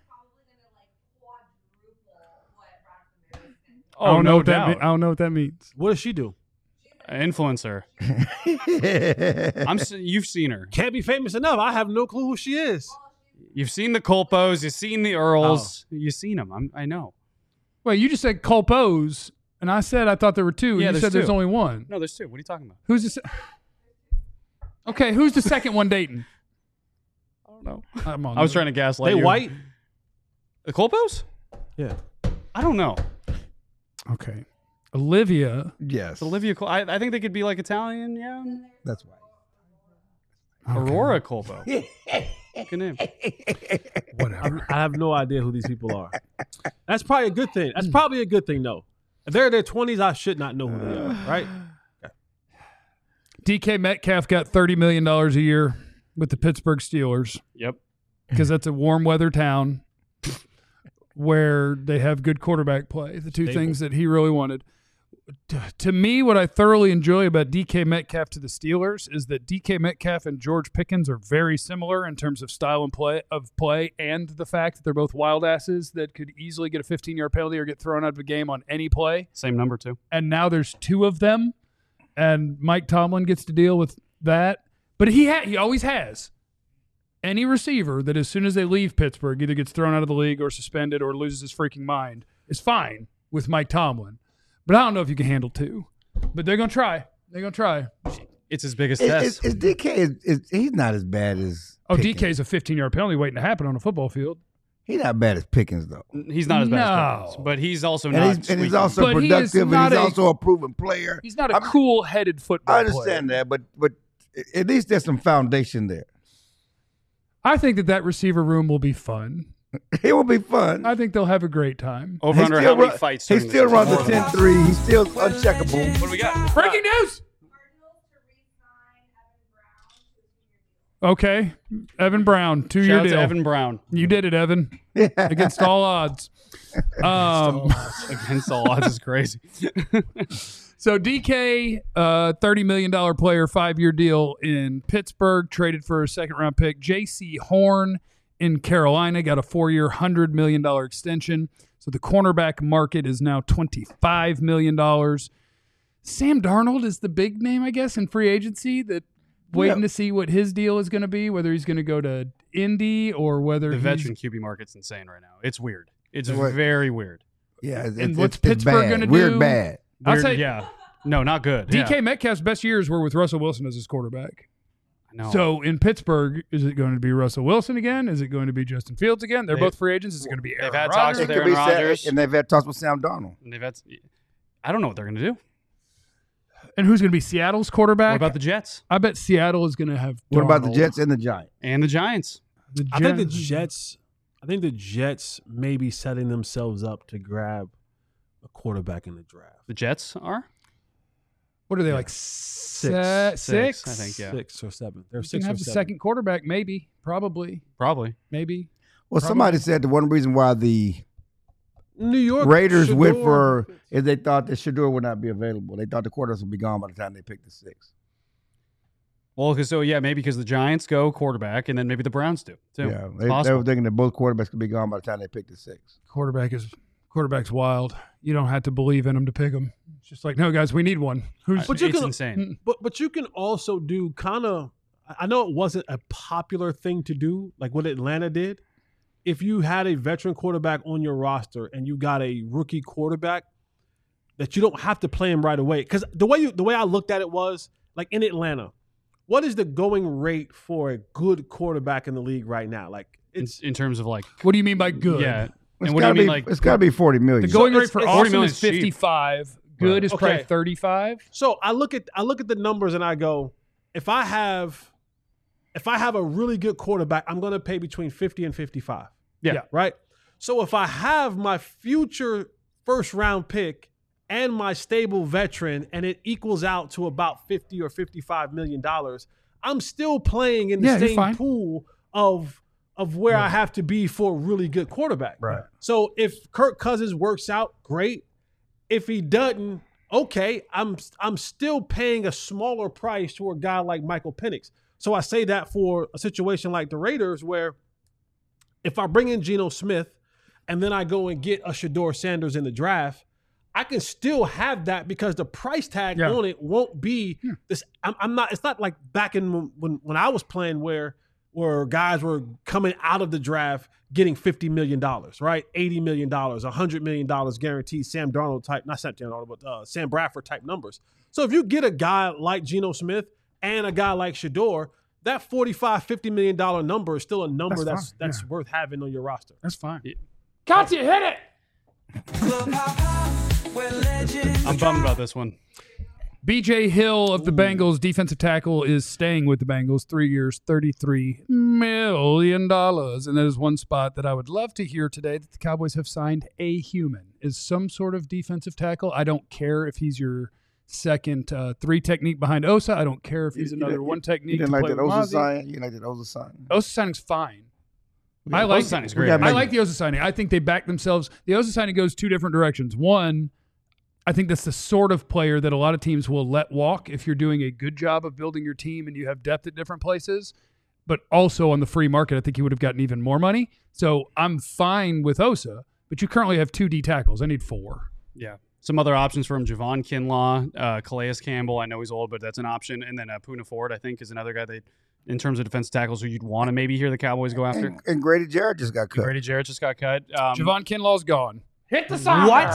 S1: I don't know
S2: no
S1: what that
S2: doubt.
S1: I don't know what that means.
S5: What does she do?
S2: Influencer. You've seen her.
S5: Can't be famous enough. I have no clue who she is.
S2: You've seen the Colpos. You've seen the Earls. You've seen them. I know.
S1: Wait, you just said Colpos, and I said I thought there were 2.
S2: Yeah,
S1: you
S2: there's
S1: said there's
S2: 2.
S1: only 1.
S2: No, there's 2. What are you talking about?
S1: Who's the? Okay, who's the second one dating?
S2: I don't know.
S1: I'm on
S2: I was
S1: there.
S2: trying to gaslight
S5: They
S2: you.
S5: white?
S2: The Colpos?
S5: Yeah.
S2: I don't know.
S1: Okay, Olivia.
S4: yes,
S2: It's Olivia Cole. I think they could be like Italian. Yeah.
S4: that's right.
S2: Aurora Colbo. Good name.
S1: Whatever.
S5: I have no idea who these people are. That's probably a good thing. That's probably a good thing, though. If they're in their 20s, I should not know who they are, right?
S1: DK Metcalf got $30 million a year with the Pittsburgh Steelers
S2: Yep.
S1: because that's a warm weather town where they have good quarterback play. The two things that he really wanted. To me, what I thoroughly enjoy about DK Metcalf to the Steelers is that DK Metcalf and George Pickens are very similar in terms of style and play, and the fact that they're both wild asses that could easily get a 15-yard penalty or get thrown out of a game on any play.
S2: Same number, too.
S1: And now there's two of them, and Mike Tomlin gets to deal with that. But he always has. Any receiver that as soon as they leave Pittsburgh either gets thrown out of the league or suspended or loses his freaking mind is fine with Mike Tomlin. But I don't know if you can handle two. But they're going to try. They're going to try.
S2: It's his biggest test.
S4: Is DK, he's not as bad as Pickens.
S1: DK's a 15-yard penalty waiting to happen on a football field.
S4: He's not bad as Pickens, though.
S2: He's not as bad as
S1: No.
S2: Pickens, but he's also
S4: And
S2: not.
S4: he's also
S1: But he is
S4: productive, and
S1: not
S4: he's
S1: a-
S4: also a proven player.
S1: He's not a cool-headed football
S4: I understand
S1: player.
S4: that, but at least there's some foundation there.
S1: I think that receiver room will be fun.
S4: It will be fun.
S1: I think they'll have a great time.
S2: Over under how many fights?
S4: He
S2: during
S4: still
S2: this
S4: runs a
S2: season?
S4: 10-3. He's still uncheckable.
S2: What do we got?
S1: Breaking news! Okay. Evan Brown, 2-year
S2: Shout out
S1: deal.
S2: to Evan Brown.
S1: You did it, Evan. Against all odds.
S2: Against all odds is crazy.
S1: So DK, $30 million player, 5-year deal in Pittsburgh, traded for a second-round pick. J.C. Horn in Carolina got a 4-year, $100 million extension. So the cornerback market is now $25 million. Sam Darnold is the big name, I guess, in free agency that waiting to see what his deal is going to be, whether he's going to go to Indy or whether
S2: The
S1: he's
S2: veteran QB market's insane right now. It's weird. It's
S4: What?
S2: very weird.
S4: Yeah,
S1: And what's Pittsburgh
S4: bad.
S1: gonna
S4: Weird
S1: do?
S4: bad.
S1: I'll
S2: Weird,
S1: say
S2: yeah. No, not good.
S1: DK
S2: Yeah.
S1: Metcalf's best years were with Russell Wilson as his quarterback.
S2: No.
S1: So in Pittsburgh, is it going to be Russell Wilson again? Is it going to be Justin Fields again? They're
S2: They-
S1: both free agents. Is it going to be Aaron
S2: had talks
S1: Rodgers?
S2: with
S4: It could
S2: Aaron
S4: be Sam-
S2: Rodgers.
S4: and they've had talks with Sam Darnold.
S2: And they've had, I don't know what they're going to do.
S1: And who's going to be Seattle's quarterback?
S2: What about the Jets
S1: I bet Seattle is going to have.
S4: What about the
S1: Darnold.
S4: Jets and the Giants?
S2: and the Giants?
S5: I think the Jets may be setting themselves up to grab a quarterback in the draft.
S2: The Jets are?
S1: What are they like?
S5: Six.
S1: Six?
S2: I think, yeah.
S5: 6 or 7. They're
S1: You
S5: 6
S1: can
S5: or
S1: have the
S5: 7.
S1: second quarterback, maybe, probably,
S2: Probably.
S1: maybe.
S4: Well, somebody said the one reason why the
S5: New York
S4: Raiders went
S5: Shador-
S4: for is they thought that Shador would not be available. They thought the quarterbacks would be gone by the time they picked the 6.
S2: Well, maybe because the Giants go quarterback, and then maybe the Browns do too.
S4: Yeah,
S2: It's
S4: they
S2: possible.
S4: were thinking that both quarterbacks could be gone by the time they picked the 6.
S1: Quarterback's wild. You don't have to believe in him to pick him. It's just like, no, guys, we need one. Who's
S5: But you
S2: it's
S5: can-
S2: insane.
S5: But you can also do kind of. I know it wasn't a popular thing to do, like what Atlanta did. If you had a veteran quarterback on your roster and you got a rookie quarterback, that you don't have to play him right away. Because the way I looked at it was like in Atlanta, what is the going rate for a good quarterback in the league right now? Like it's
S2: in terms of like,
S1: What do you mean by good?
S2: yeah.
S4: It's
S2: And what do you
S4: gotta
S2: mean
S4: be,
S2: like?
S4: it's got to be $40 million.
S1: The going
S5: So
S1: rate for
S5: it's-
S1: awesome
S2: 40
S1: is
S2: is cheap.
S1: 55. Good is probably
S5: Okay.
S1: 35.
S5: So I look at the numbers and I go, if I have a really good quarterback, I'm going to pay between 50 and 55.
S2: Yeah.
S5: Right? So if I have my future first round pick and my stable veteran and it equals out to about 50 or 55 million dollars, I'm still playing in the
S1: Yeah, you're
S5: same
S1: fine.
S5: pool of where I have to be for a really good quarterback.
S4: Right.
S5: So if Kirk Cousins works out, great. If he doesn't, okay, I'm still paying a smaller price to a guy like Michael Penix. So I say that for a situation like the Raiders, where if I bring in Geno Smith and then I go and get a Shador Sanders in the draft, I can still have that because the price tag
S1: Yeah.
S5: on it won't be this. I'm not. It's not like back in when I was playing where guys were coming out of the draft getting $50 million, right? $80 million, $100 million guaranteed. Sam Darnold type, not Sam Darnold, but Sam Bradford type numbers. So if you get a guy like Geno Smith and a guy like Shador, that $45-50 million number is still a number
S1: That's
S5: that's
S1: fine,
S5: worth having on your roster.
S1: That's fine.
S2: Yeah.
S1: Katya, hit it.
S2: I'm bummed about this one.
S1: BJ Hill of the Bengals, defensive tackle, is staying with the Bengals 3 years, $33 million. And that is one spot that I would love to hear today that the Cowboys have signed a human. Is some sort of defensive tackle. I don't care if he's your second 3 technique behind Osa. I don't care if he's another 1 technique.
S4: You didn't
S1: to
S4: like
S1: play
S4: that
S1: with
S4: Osa
S1: Mozzie.
S4: sign? You like that Osa sign?
S1: Osa signing's fine.
S2: Yeah,
S1: I like
S2: Osa signing's great.
S1: I like the Osa signing. I think they back themselves. The Osa signing goes 2 different directions. One, I think that's the sort of player that a lot of teams will let walk if you're doing a good job of building your team and you have depth at different places. But also on the free market, I think he would have gotten even more money. So I'm fine with Osa, but you currently have 2 D tackles. I need 4.
S2: Yeah. Some other options for him: Javon Kinlaw, Calais Campbell. I know he's old, but that's an option. And then Poona Ford, I think, is another guy that, in terms of defensive tackles, who you'd want to maybe hear the Cowboys go after.
S4: And Grady Jarrett just got cut.
S2: Grady Jarrett just got cut.
S1: Javon Kinlaw's gone. Hit the song.
S2: What?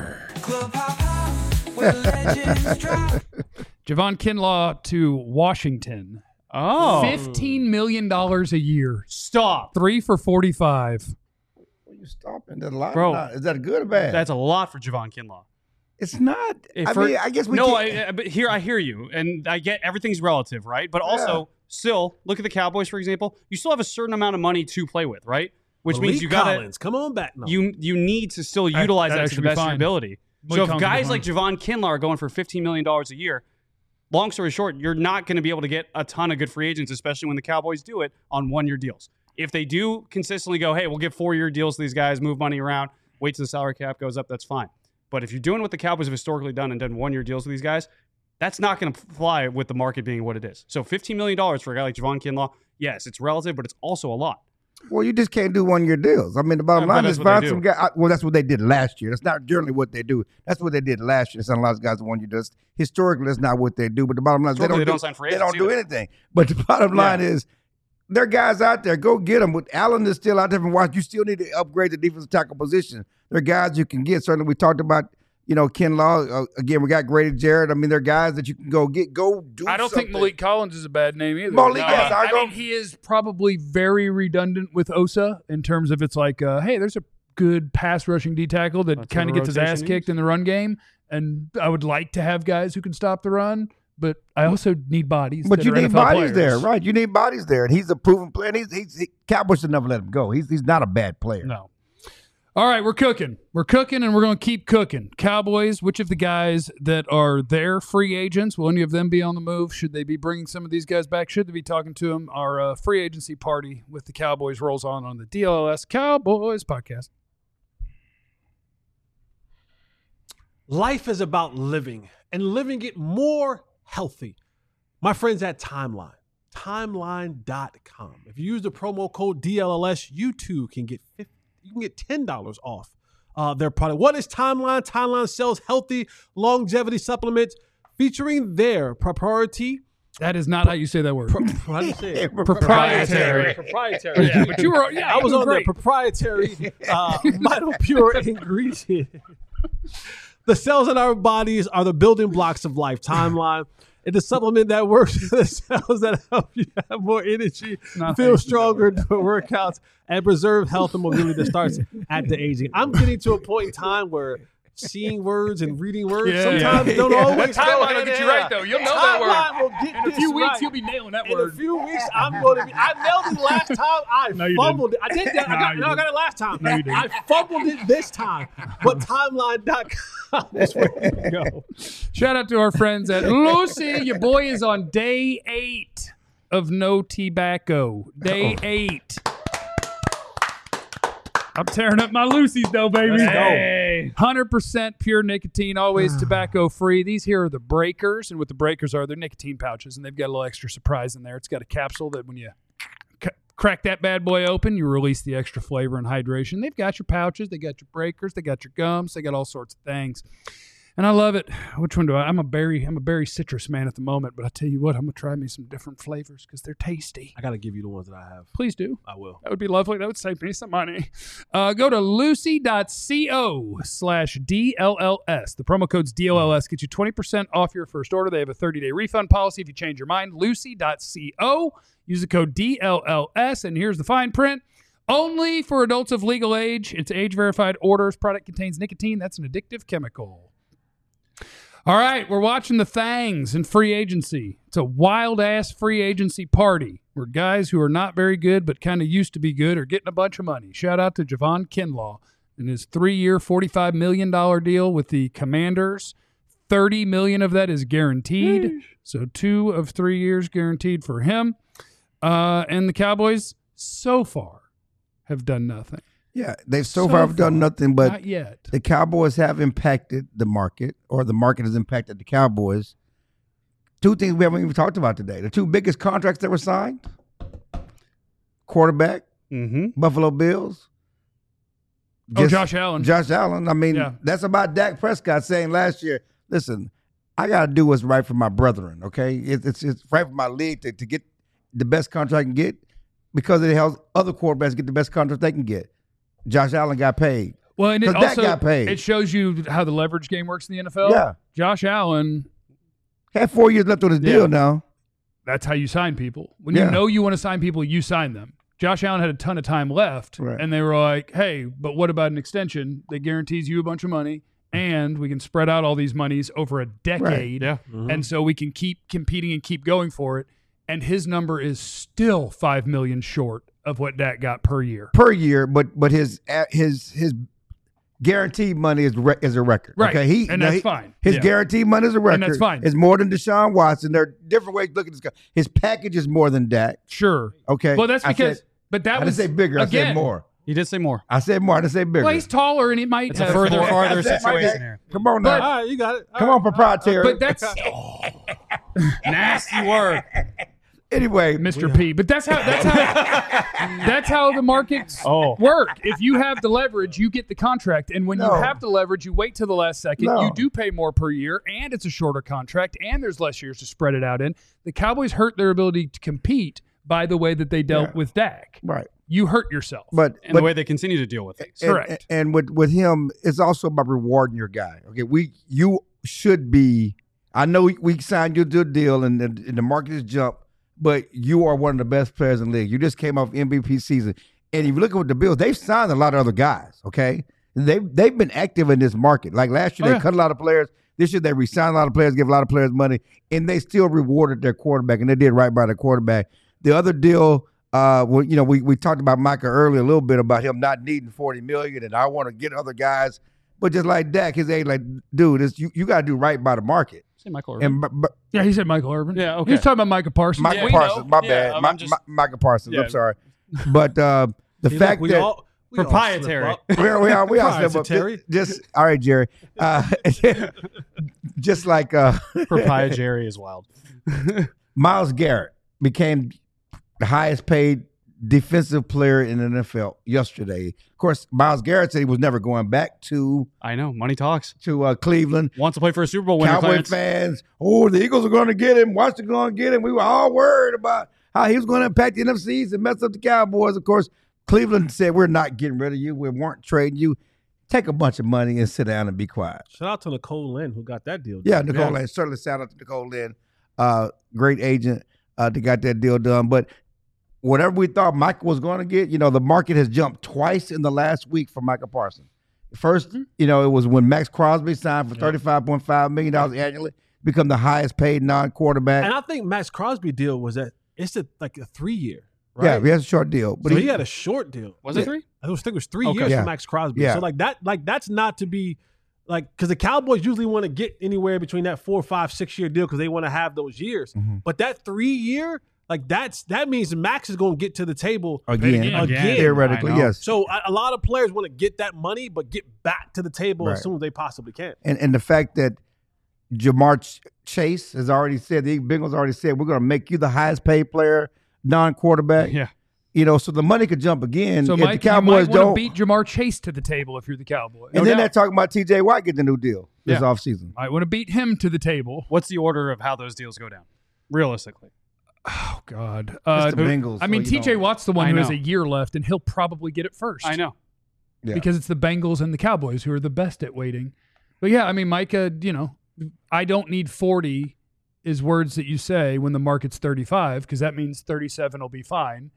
S1: Javon Kinlaw to Washington.
S2: Oh.
S1: $15 million a year.
S2: Stop.
S1: 3 for 45.
S4: Well, you stopping that a lot,
S2: Bro.
S4: Is that good or bad?
S2: That's a lot for Javon Kinlaw.
S4: It's not.
S2: For-
S4: I guess we.
S2: No,
S4: can't-
S2: but here I hear you, and I get everything's relative, right? But also, still, look at the Cowboys, for example. You still have a certain amount of money to play with, right? Which means
S5: Malik
S2: you got
S5: Collins, come on back now.
S2: you need to still utilize that to the
S1: should be
S2: best of your
S1: fine.
S2: ability.
S1: Malik
S2: So if
S1: Collins
S2: guys
S1: is
S2: like Javon Kinlaw are going for $15 million a year, long story short, you're not going to be able to get a ton of good free agents, especially when the Cowboys do it on 1-year deals. If they do consistently go, hey, we'll give 4-year deals to these guys, move money around, wait till the salary cap goes up, that's fine. But if you're doing what the Cowboys have historically done and done 1-year deals with these guys, that's not going to fly with the market being what it is. So $15 million for a guy like Javon Kinlaw, yes, it's relative, but it's also a lot.
S4: Well, you just can't do 1-year deals. I mean, the bottom
S2: Yeah, but
S4: line
S2: that's
S4: is
S2: what they
S4: find
S2: do.
S4: some guy. Well, that's what they did last year. That's not generally what they do. That's what they did last year. They signed a lot of guys to 1-year deals. Historically, that's not what they do. But the bottom line is
S2: Historically, they don't sign free
S4: they don't
S2: agents
S4: do
S2: either.
S4: anything. But the bottom line is there are guys out there. Go get them. With Allen is still out there from Washington, you still need to upgrade the defensive tackle position. There are guys you can get. Certainly, we talked about, Kinlaw. Again, we got Grady Jarrett. I mean, there are guys that you can go get. Go do
S1: I don't think
S4: something.
S1: Malik Collins is a bad name either.
S4: Malik, yes,
S1: I mean, he is probably very redundant with Osa in terms of it's like, hey, there's a good pass rushing D tackle that
S2: That's
S1: kind of
S2: what
S1: gets his
S2: rotation
S1: ass kicked in the run game. And I would like to have guys who can stop the run, but I also need bodies.
S4: But
S1: that
S4: you
S1: are
S4: need
S1: NFL
S4: bodies
S1: players.
S4: there, right? You need bodies there, and he's a proven player. And he's Cowboys should never let him go. He's not a bad player.
S1: No. All right, we're cooking. We're cooking, and we're going to keep cooking. Cowboys, which of the guys that are their free agents, will any of them be on the move? Should they be bringing some of these guys back? Should they be talking to them? Our free agency party with the Cowboys rolls on the DLLS Cowboys podcast.
S5: Life is about living and living it more healthy. My friends at Timeline, timeline.com. If you use the promo code DLLS, you too can get $10 off their product. What is Timeline? Timeline sells healthy longevity supplements featuring their proprietary.
S1: That is not how you say that word.
S5: How do you say it?
S1: Proprietary.
S5: Proprietary.
S1: Yeah, but you were, yeah,
S5: I was
S1: you were
S5: on their
S1: great.
S5: proprietary Vital Pure ingredient. The cells in our bodies are the building blocks of life. Timeline. It's a supplement that works with the cells that help you have more energy, feel stronger, do workouts, and preserve health and mobility that starts at the aging. I'm getting to a point in time where seeing words and reading words sometimes don't always
S1: That
S5: go
S1: timeline will
S5: hand
S1: get
S5: in
S1: you right,
S5: hand.
S1: though. You'll know that word.
S5: Timeline will get
S1: In a few
S5: this
S1: weeks,
S5: right.
S1: you'll be nailing that
S5: In
S1: word.
S5: a few weeks, I'm going to be. I nailed it last time. I
S1: No, you
S5: fumbled it. I did that.
S1: No,
S5: I
S1: you
S5: got it last time.
S1: No, you didn't.
S5: I fumbled it this time. But timeline.com is where you go.
S1: Shout out to our friends at Lucy. Your boy is on day 8 of no tobacco. Day 8. I'm tearing up my Lucy's though, baby.
S5: Let's go.
S1: Hey. 100% pure nicotine, always tobacco free. These here are the Breakers, and what the Breakers are, they're nicotine pouches, and they've got a little extra surprise in there. It's got a capsule that when you crack that bad boy open, you release the extra flavor and hydration. They've got your pouches, they got your Breakers, they got your gums, they got all sorts of things. And I love it. Which one do I'm a berry citrus man at the moment, but I tell you what, I'm gonna try me some different flavors because they're tasty.
S5: I got to give you the ones that I have.
S1: Please do.
S5: I will.
S1: That would be lovely. That would save me some money. Go to lucy.co/DLLS. The promo code's DLLS. Get you 20% off your first order. They have a 30-day refund policy if you change your mind. Lucy.co. Use the code DLLS. And here's the fine print. Only for adults of legal age. It's age-verified orders. Product contains nicotine. That's an addictive chemical. All right, we're watching the Thangs in free agency. It's a wild-ass free agency party where guys who are not very good but kind of used to be good are getting a bunch of money. Shout out to Javon Kinlaw and his 3-year, $45 million deal with the Commanders. $30 million of that is guaranteed, so 2 of 3 years guaranteed for him. And the Cowboys so far have done nothing.
S4: Yeah, they've so far done nothing, but
S1: not yet.
S4: The Cowboys have impacted the market, or the market has impacted the Cowboys. 2 things we haven't even talked about today. The 2 biggest contracts that were signed, quarterback, Buffalo Bills.
S1: Josh Allen.
S4: Josh Allen. I mean, that's about Dak Prescott saying last year, listen, I got to do what's right for my brethren, okay? It's right for my league to get the best contract I can get because it helps other quarterbacks get the best contract they can get. Josh Allen got paid.
S1: Well, and it also
S4: got paid.
S1: It shows you how the leverage game works in the NFL.
S4: Yeah.
S1: Josh Allen
S4: had 4 years left on his deal now.
S1: That's how you sign people. When you know you want to sign people, you sign them. Josh Allen had a ton of time left, and they were like, hey, but what about an extension that guarantees you a bunch of money, and we can spread out all these monies over a decade, and so we can keep competing and keep going for it. And his number is still $5 million short of what Dak got per year.
S4: Per year, but his guaranteed money is a record.
S1: Right.
S4: Okay,
S1: that's fine.
S4: His guaranteed money is a record.
S1: And that's fine.
S4: It's more than Deshaun Watson. There are different ways to look at this guy. His package is more than Dak.
S1: Sure.
S4: Okay.
S1: Well, that's because
S4: I didn't say bigger. I said more.
S2: He did say more.
S4: I said more. I didn't say bigger.
S1: Well, he's taller and he might have
S2: a farther
S4: I said,
S2: situation here.
S4: Come on now.
S5: All right, you got it.
S4: Come on, proprietary.
S1: But that's
S2: Nasty word.
S4: Anyway,
S1: Mr. P. But that's how the markets work. If you have the leverage, you get the contract, and when you have the leverage, you wait till the last second. You do pay more per year, and it's a shorter contract, and there's less years to spread it out in. The Cowboys hurt their ability to compete by the way that they dealt with Dak.
S4: Right.
S1: You hurt yourself.
S2: And the way they continue to deal with things.
S1: Correct.
S4: And with him, it's also about rewarding your guy. Okay, you should be. I know we signed you to a deal, and the market has jumped. But you are one of the best players in the league. You just came off MVP season. And if you look at the Bills, they've signed a lot of other guys, okay? They've been active in this market. Like last year, they cut a lot of players. This year, they re-signed a lot of players, give a lot of players money, and they still rewarded their quarterback, and they did right by their quarterback. The other deal, we talked about Micah earlier a little bit about him not needing $40 million, and I want to get other guys. But just like Dak, his age, like, dude, you got to do right by the market.
S2: Say Michael Irvin.
S1: Yeah, he said Michael Irvin.
S2: Yeah, okay.
S1: He was talking about Micah Parsons.
S4: Micah Parsons, my bad. Micah Parsons, I'm sorry. But the fact that
S2: proprietary.
S4: We all proprietary. Just all right, Jerry. Just like
S2: proprietary is wild.
S4: Myles Garrett became the highest paid defensive player in the NFL yesterday. Of course, Myles Garrett said he was never going back to.
S2: I know, money talks.
S4: To Cleveland.
S2: Wants to play for a Super Bowl winner.
S4: Cowboy fans, the Eagles are going to get him. Washington going to get him. We were all worried about how he was going to impact the NFC and mess up the Cowboys. Of course, Cleveland said, we're not getting rid of you. We weren't trading you. Take a bunch of money and sit down and be quiet.
S5: Shout out to Nicole Lynn who got that deal done.
S4: Yeah, Nicole Lynn. Certainly shout out to Nicole Lynn. Great agent that got that deal done. But whatever we thought Micah was going to get, the market has jumped twice in the last week for Micah Parsons. First, it was when Max Crosby signed for $35.5 million annually, become the highest paid non-quarterback.
S5: And I think Max Crosby deal was it's a 3-year, right?
S4: Yeah, he has a short deal. But
S5: so he had a short deal.
S2: Was it 3?
S5: I think it was 3 years for Max Crosby.
S4: Yeah.
S5: So that's not to be because the Cowboys usually want to get anywhere between that 4, 5, 6 year deal because they want to have those years. Mm-hmm. But that 3-year, that means Max is going to get to the table again.
S4: Theoretically, yes.
S5: So a lot of players want to get that money, but get back to the table as soon as they possibly can.
S4: And the fact that Jamar Chase has already said, the Bengals already said, we're going to make you the highest paid player, non-quarterback.
S2: Yeah.
S4: So the money could jump again.
S1: So,
S4: if
S1: Mike,
S4: the Cowboys
S1: you might want to beat Jamar Chase to the table if you're the Cowboys.
S4: And then they're talking about T.J. Watt getting a new deal this offseason.
S1: I want to beat him to the table.
S2: What's the order of how those deals go down, realistically?
S1: Oh, God.
S4: It's the Bengals.
S1: I mean, T.J. Watt's the one who has a year left, and he'll probably get it first.
S2: I know.
S4: Yeah.
S1: Because it's the Bengals and the Cowboys who are the best at waiting. But, yeah, I mean, Micah, I don't need 40 is words that you say when the market's 35 because that means 37 will be fine.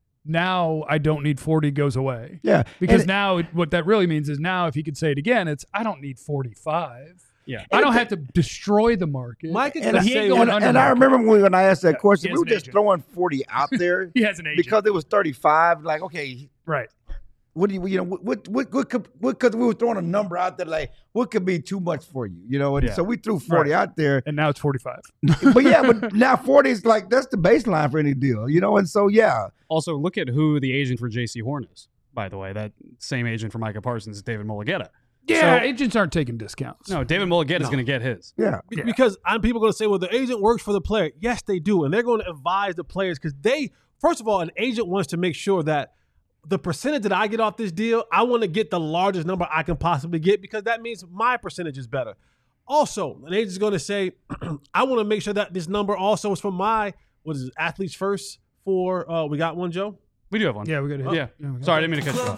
S1: Now I don't need 40 goes away.
S4: Yeah.
S1: Because now what that really means is now if he could say it again, it's I don't need 45.
S2: Yeah.
S1: I don't have to destroy the market.
S5: Mike is
S4: And,
S5: gonna
S1: he
S5: say
S1: ain't going
S4: and
S1: under
S4: I
S1: market.
S4: remember when I asked that question,
S1: he
S4: we
S1: has
S4: were
S1: an
S4: just
S1: agent.
S4: throwing 40 out there
S1: He has an agent.
S4: because it was 35. Like, okay,
S1: Right.
S4: what do you know? What could? Because we were throwing a number out there, like what could be too much for you, you know? And
S2: Yeah.
S4: so we threw 40 out there.
S1: And now it's 45.
S4: but now 40 is like that's the baseline for any deal, you know. And so
S2: Also, look at who the agent for J.C. Horn is. By the way, that same agent for Micah Parsons is David Mulugeta.
S1: Yeah,
S2: So-
S1: agents aren't taking discounts.
S2: No, David Mulugeta is going to get his.
S4: yeah.
S5: Because people are going to say, well, the agent works for the player. Yes, they do. And they're going to advise the players because first of all, an agent wants to make sure that the percentage that I get off this deal, I want to get the largest number I can possibly get because that means my percentage is better. Also, an agent's going to say, I want to make sure that this number also is for my, athletes first for, we got one, Joe?
S2: We do have one.
S1: Yeah, we got to
S2: Yeah.
S1: we got
S2: Sorry, I didn't mean to cut you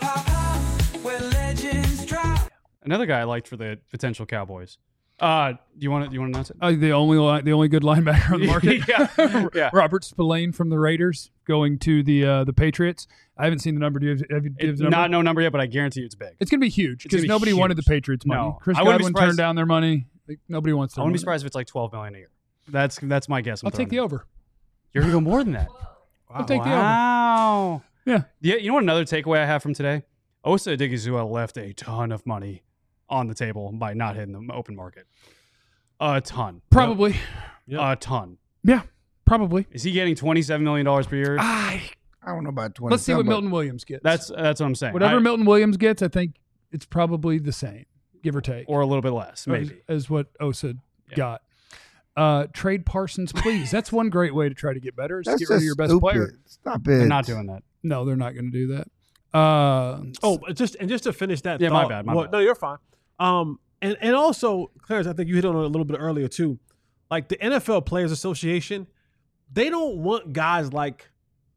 S2: off. Another guy I liked for the potential Cowboys. Do you want to announce it?
S1: the only good linebacker on the market.
S2: Yeah.
S1: Robert Spillane from the Raiders going to the Patriots. I havenn seen the number. Do you have the
S2: It's
S1: number?
S2: not no number yet, but I guarantee you it's big.
S1: It's going to be huge
S2: It's gonna
S1: because
S2: be
S1: nobody wanted the
S2: huge.
S1: Patriots money.
S2: No.
S1: Chris
S2: I wouldn't be
S1: Godwin
S2: surprised-
S1: turned down their money. Like, nobody wants
S2: I
S1: their
S2: wouldn't be
S1: money.
S2: surprised if it's like $12 million a year. That's my guess.
S1: I'll take the over.
S2: You're gonna go more than that.
S1: I'll take the over.
S2: Wow.
S1: Yeah.
S2: You know what another takeaway I have from today? Osa Odigizua left a ton of money on the table by not hitting the open market. A ton.
S1: Probably.
S5: Yep.
S2: A ton.
S1: Yeah, probably.
S2: Is he getting $27 million per year?
S4: I don't know about 20.
S1: Let's see what Milton Williams gets.
S2: That's what I'm saying.
S1: Whatever Milton Williams gets, I think it's probably the same, give or take,
S2: or a little bit less, maybe.
S1: as what Osa got. Trade Parsons, please. That's one great way to try to get better. Is to
S4: That's
S1: get rid of
S4: just
S1: your best
S4: stupid.
S1: player.
S4: Stop it.
S2: They're not doing that.
S1: No, they're not going to do that.
S5: Just to finish that
S2: Yeah,
S5: thought.
S2: my bad.
S5: No, you're fine. And also, Clarence, I think you hit on it a little bit earlier too. Like the NFL Players Association, they don't want guys like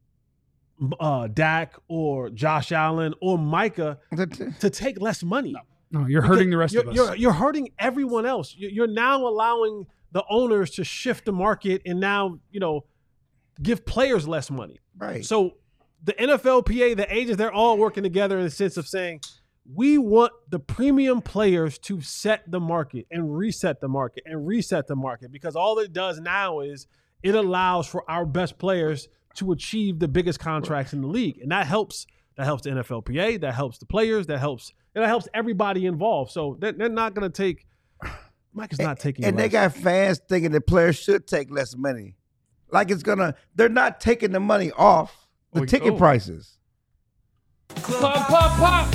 S5: Dak or Josh Allen or Micah to take less money.
S1: No, you're hurting the rest of us.
S5: You're hurting everyone else. You're now allowing the owners to shift the market and now, give players less money.
S4: Right.
S5: So the NFLPA, the agents, they're all working together in the sense of saying, we want the premium players to set the market and reset the market and reset the market, because all it does now is it allows for our best players to achieve the biggest contracts in the league. And that helps the NFLPA, that helps the players, that helps everybody involved. So they're not going to take – Mike is not taking
S4: And
S5: less.
S4: they got fans thinking that players should take less money. Like they're not taking the money off the ticket prices.
S1: Pop.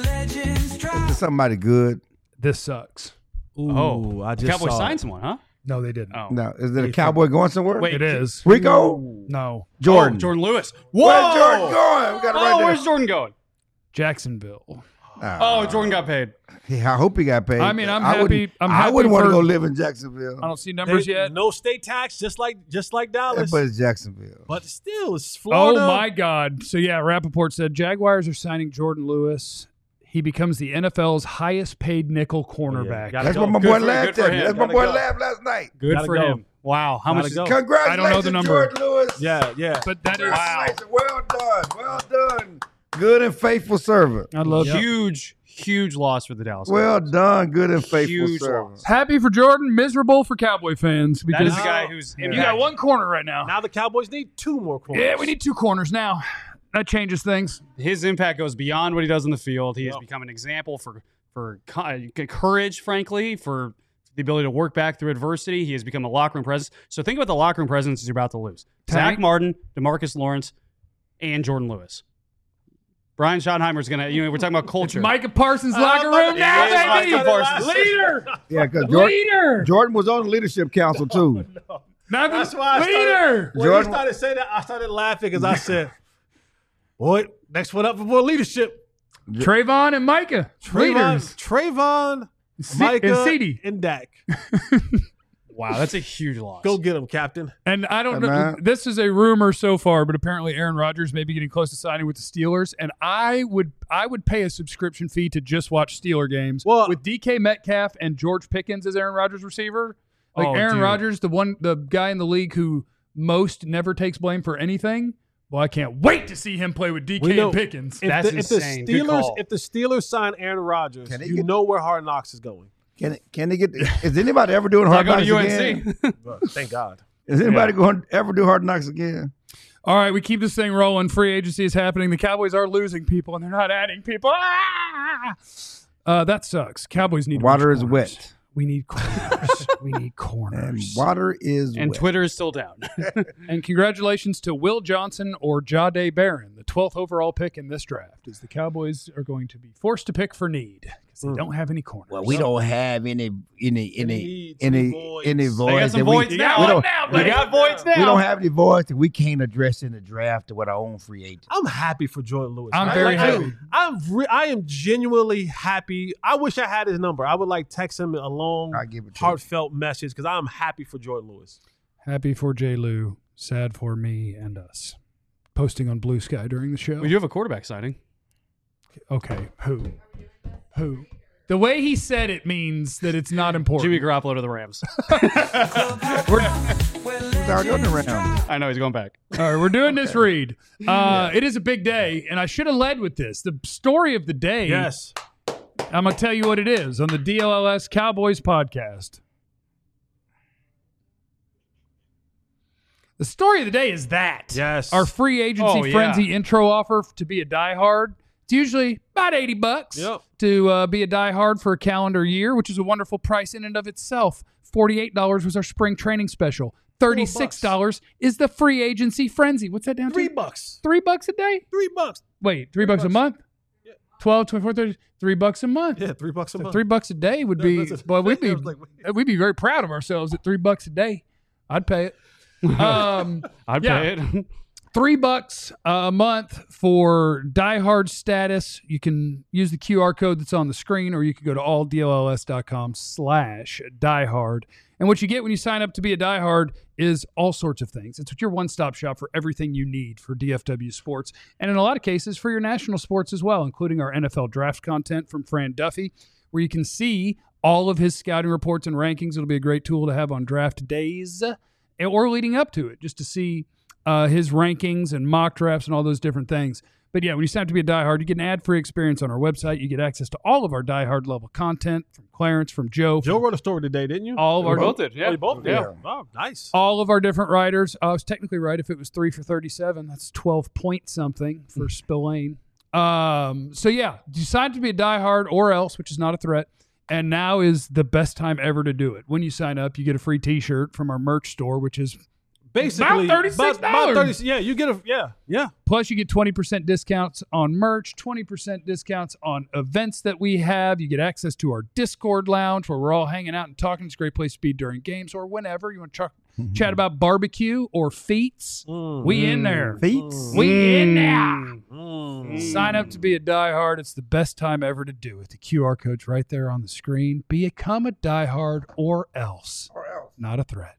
S4: Is somebody good?
S1: This sucks.
S5: Ooh, I just
S2: Cowboys
S5: saw
S2: signed
S5: it.
S2: someone, huh?
S1: No, they didn't.
S2: Oh.
S4: No. Is it a cowboy going somewhere?
S2: Wait,
S1: It is.
S4: Rico?
S1: No.
S4: Jordan.
S2: Oh, Jordan Lewis.
S4: Where's
S2: Whoa!
S4: Jordan going? We got it right there.
S2: Where's Jordan going?
S1: Jacksonville.
S2: Oh, Jordan got paid.
S4: I hope he got paid.
S1: I mean, I'm
S4: I
S1: happy-
S4: wouldn't-
S1: I'm
S4: I
S1: happy
S4: wouldn't want to
S1: for-
S4: go live in Jacksonville.
S1: I don't see numbers yet.
S5: No state tax, just like Dallas.
S4: But it's Jacksonville.
S5: But still, it's
S1: Oh,
S5: Florida.
S1: my God. So, yeah, Rappaport said Jaguars are signing Jordan Lewis. He becomes the NFL's highest paid nickel cornerback.
S5: Gotta
S4: That's
S5: go.
S4: what my
S2: Good
S4: boy
S2: for-
S4: laughed
S2: good for
S4: at.
S2: him.
S4: That's my
S5: Gotta
S4: boy
S5: go.
S4: laughed last night.
S2: Good
S5: Gotta
S2: for
S5: go.
S2: him. Wow. How
S5: Gotta
S2: much is
S5: go.
S4: Congratulations,
S1: I don't know the number.
S4: Jordan Lewis.
S5: Yeah.
S1: But that is
S4: Congratulations. Well done. Well done. Good and faithful servant.
S1: I love it.
S2: huge loss for the Dallas
S4: Well
S2: Cowboys.
S4: done. Good and faithful
S2: Huge
S4: servant.
S2: loss.
S1: Happy for Jordan, miserable for Cowboy fans
S2: That
S1: because
S2: is the guy who's
S1: you got one corner right now.
S5: Now the Cowboys need 2 more corners.
S1: Yeah, we need 2 corners now. That changes things.
S2: His impact goes beyond what he does in the field. He has become an example for courage, frankly, for the ability to work back through adversity. He has become a locker room presence. So think about the locker room presence you're about to lose.
S1: Tank.
S2: Zach Martin, DeMarcus Lawrence, and Jordan Lewis. Brian Schottenheimer's going to, we're talking about culture.
S1: Micah Parsons' locker room now,
S2: It is
S1: baby.
S2: Micah Parsons.
S1: Leader.
S4: Yeah, because
S1: Leader.
S4: Jordan was on the leadership council too.
S5: That's why I
S1: Leader.
S5: When
S4: Jordan-
S5: he started saying that, I started laughing because I said, boy, next one up for more leadership.
S1: Trayvon and Micah. Leaders.
S5: Trayvon,
S1: C-
S5: Micah,
S1: and CeeDee.
S5: and Dak.
S2: Wow, that's a huge loss.
S5: Go get him, Captain.
S1: And I don't
S4: Hey,
S1: know.
S4: man.
S1: This is a rumor so far, but apparently Aaron Rodgers may be getting close to signing with the Steelers. And I would pay a subscription fee to just watch Steeler games
S5: Well-
S1: with DK Metcalf and George Pickens as Aaron Rodgers receiver. Like
S2: Oh,
S1: Aaron
S2: dude.
S1: Rodgers, the guy in the league who most never takes blame for anything. Well, I can't wait to see him play with
S5: We
S1: DK
S5: know-
S1: and Pickens.
S2: That's insane. Good call.
S5: If the Steelers sign Aaron Rodgers,
S4: Can he
S5: you
S4: get-
S5: know where Hard Knocks is going.
S4: Can they get? Is anybody ever doing Hard Knocks again?
S5: Thank God.
S4: Is anybody going to ever do Hard Knocks again?
S1: All right, we keep this thing rolling. Free agency is happening. The Cowboys are losing people, and they're not adding people. That sucks. Cowboys need
S4: water is
S1: corners.
S4: wet.
S1: We need corners. We need corners.
S4: And water is
S2: And
S4: wet.
S2: Twitter is still down.
S1: And congratulations to Will Johnson or Jahdae Barron, the 12th overall pick in this draft, as the Cowboys are going to be forced to pick for need because they don't have any corners.
S4: Well, we don't have any voids.
S2: They got some voids now.
S4: We don't,
S2: They got voids now.
S4: we don't have any voids that we can't address in the draft with our own free agent.
S5: I'm happy for Jordan Lewis.
S1: I'm very happy.
S5: I am genuinely happy. I wish I had his number. I would like text him a long,
S4: I'll give it to you.
S5: heartfelt message because I'm happy for Jordan Lewis.
S1: Happy for J. Lou, sad for me and us. Posting on Blue Sky during the show.
S2: We do have a quarterback signing.
S1: Okay, who? The way he said it means that it's not important.
S2: Jimmy Garoppolo to the Rams.
S4: It's already on the round.
S2: I know he's going back.
S1: All right, we're doing this read. It is a big day, and I should have led with this. The story of the day,
S5: Yes.
S1: I'm going to tell you what it is on the DLLS Cowboys podcast. The story of the day is that.
S5: Yes.
S1: Our free agency
S2: Oh, yeah.
S1: frenzy intro offer to be a diehard. It's usually about $80
S5: Yep.
S1: to be a diehard for a calendar year, which is a wonderful price in and of itself. $48 was our spring training special. $36 is the free agency frenzy. What's that down to?
S5: $3.
S1: $3 a day?
S5: $3.
S1: Wait, $3 a month? 12, 24, 30, $3 a month.
S5: Yeah, $3 a month.
S1: $3 a day would be.
S5: That's a-
S1: Well, we'd be
S5: I was like, wait.
S1: we'd be very proud of ourselves at $3 a day. I'd pay it.
S2: I'd
S1: Yeah.
S2: pay it.
S1: $3 a month for diehard status. You can use the QR code that's on the screen, or you can go to alldlls.com/diehard. And what you get when you sign up to be a diehard is all sorts of things. It's your one-stop shop for everything you need for DFW sports, and in a lot of cases for your national sports as well, including our NFL draft content from Fran Duffy, where you can see all of his scouting reports and rankings. It'll be a great tool to have on draft days or leading up to it, just to see his rankings and mock drafts and all those different things. But yeah, when you sign up to be a diehard, you get an ad-free experience on our website. You get access to all of our diehard level content from Clarence, from Joe.
S5: Joe wrote a story today, didn't you?
S1: All of
S2: We
S1: our
S2: both did.
S5: Oh,
S2: Yeah.
S5: you both did?
S2: Yeah.
S5: Oh, nice.
S1: all of our different writers. I was technically right if it was 3 for 37. That's 12 point something for Spillane. So yeah, decide to be a diehard or else, which is not a threat. And now is the best time ever to do it. When you sign up, you get a free T-shirt from our merch store, which is
S5: Basically,
S1: about $36.
S5: about 30, yeah, you get a yeah.
S1: plus you get 20% discounts on merch, 20% discounts on events that we have. You get access to our Discord lounge where we're all hanging out and talking. It's a great place to be during games or whenever you want to chat about barbecue or feats. We in there.
S4: Feats.
S1: We in there. Sign up to be a diehard. It's the best time ever to do it. The QR code's right there on the screen. Become a diehard or else. Not a threat.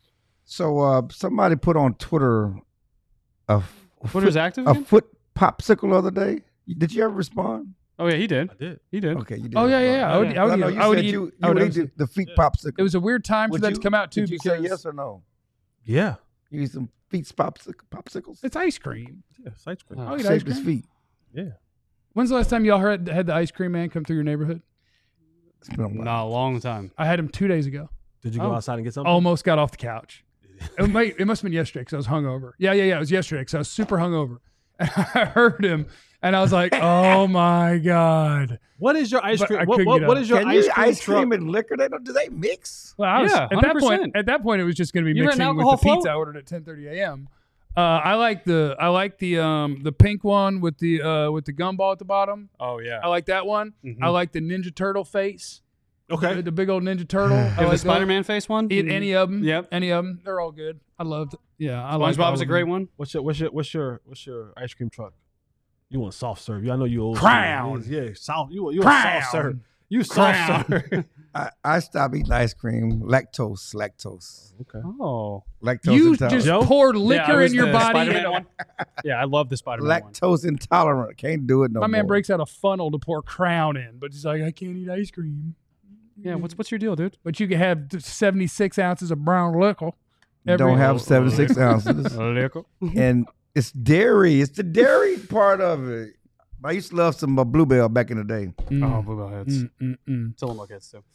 S4: So somebody put on Twitter
S2: Twitter's active
S4: a
S2: again?
S4: foot popsicle the other day. Did you ever respond?
S2: Oh, yeah, he did.
S5: I did.
S2: He did.
S4: Okay, you did.
S1: Oh, yeah,
S4: respond.
S1: yeah.
S2: I would-
S4: I know you said
S1: eat-
S4: you
S1: I would
S4: would
S1: eat
S4: eat the feet popsicle.
S1: It was a weird time for
S4: Would
S1: that
S4: you-
S1: to come out, too,
S4: Did you
S1: because
S4: say yes or no?
S5: Yeah.
S4: You eat some feet popsicles?
S1: it's ice cream.
S5: Yeah, ice cream.
S1: Oh, eat ice
S4: Shaped as
S1: cream.
S4: feet.
S5: Yeah.
S1: When's the last time y'all had the ice cream man come through your neighborhood?
S4: It's been a while.
S2: Not a long time.
S1: I had him 2 days ago.
S5: Did you go outside and get something?
S1: Almost got off the couch. It must have been yesterday because I was hungover. Yeah. It was yesterday because I was super hungover. And I heard him, and I was like, "Oh my god!"
S5: What is your ice
S1: But
S5: cream?
S1: I
S5: What,
S1: couldn't
S5: what,
S1: get
S5: what
S1: up.
S5: is your
S4: Can
S5: ice
S4: you
S5: cream
S4: ice
S5: truck?
S4: cream and liquor? Do they mix?
S1: Well, I was,
S2: Yeah,
S1: at that point,
S2: 100%.
S1: it was just going to be
S2: You were an
S1: mixing with
S2: alcohol
S1: the pizza
S2: float?
S1: I ordered at 10:30 a.m. I like the pink one with the gumball at the bottom.
S2: Oh, yeah.
S1: I like that one.
S2: Mhm.
S1: I like the Ninja Turtle face.
S5: Okay.
S1: The big old Ninja Turtle. I
S2: You have
S1: like
S2: the
S1: those.
S2: Spider-Man face one?
S1: Any of them.
S2: Yep.
S1: Any of them. They're all good. I loved it. Yeah, I like
S2: SpongeBob is a great one.
S5: What's your ice cream truck? You want soft serve? I know you old.
S1: Crown.
S5: School. Yeah, soft. You a
S1: Crown.
S5: soft serve. You soft serve.
S4: I stopped eating ice cream. Lactose.
S5: Okay.
S2: Oh.
S4: Lactose
S1: You
S4: intolerant.
S1: just
S5: Joe?
S1: poured
S2: Yeah,
S1: liquor
S2: it was
S1: in your
S2: the
S1: body.
S2: Spider-Man
S1: and
S2: one. Yeah, I love the Spider-Man one.
S4: Lactose intolerant. Can't do it no
S1: My
S4: more.
S1: man breaks out a funnel to pour Crown in, but he's like, I can't eat ice cream.
S2: Yeah, what's your deal, dude?
S1: But you can have 76 ounces of brown liquor.
S4: Don't have 76 ounces. And it's dairy. It's the dairy part of it. I used to love some Bluebell back in the day.
S2: Oh, Bluebell heads.
S1: Mm.
S2: Tillamook heads, too.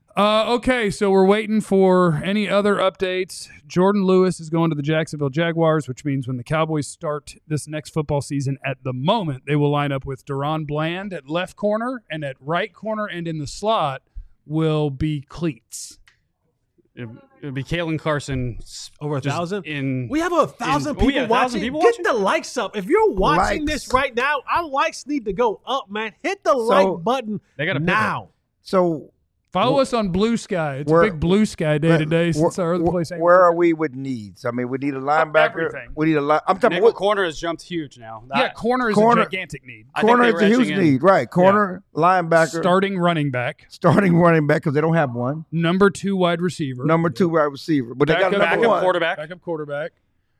S1: Okay, so we're waiting for any other updates. Jordan Lewis is going to the Jacksonville Jaguars, which means when the Cowboys start this next football season, at the moment, they will line up with Deron Bland at left corner, and at right corner and in the slot will be Cleats.
S2: It'll be Kalen Carson.
S5: Over 1,000? We have 1,000 people
S2: 1,000
S5: watching.
S2: people
S5: Get
S2: watching?
S5: the likes up. If you're watching this right now, our likes need to go up, man. Hit the like button
S2: They gotta
S5: now.
S4: So
S1: Follow us on Blue Sky. It's a big Blue Sky day today since our other place ain't.
S4: Where are we with needs? I mean, we need a linebacker.
S1: Everything.
S4: We need a line. I'm talking
S2: Nickel
S4: about
S2: corner has jumped huge now.
S1: Corner is a gigantic need.
S4: Corner is a huge need, right? Corner, linebacker,
S1: Starting running back,
S4: because they don't have one.
S1: number 2 wide receiver,
S4: Number 2 wide receiver, but they got number
S2: backup
S4: 1
S2: quarterback.
S1: backup quarterback.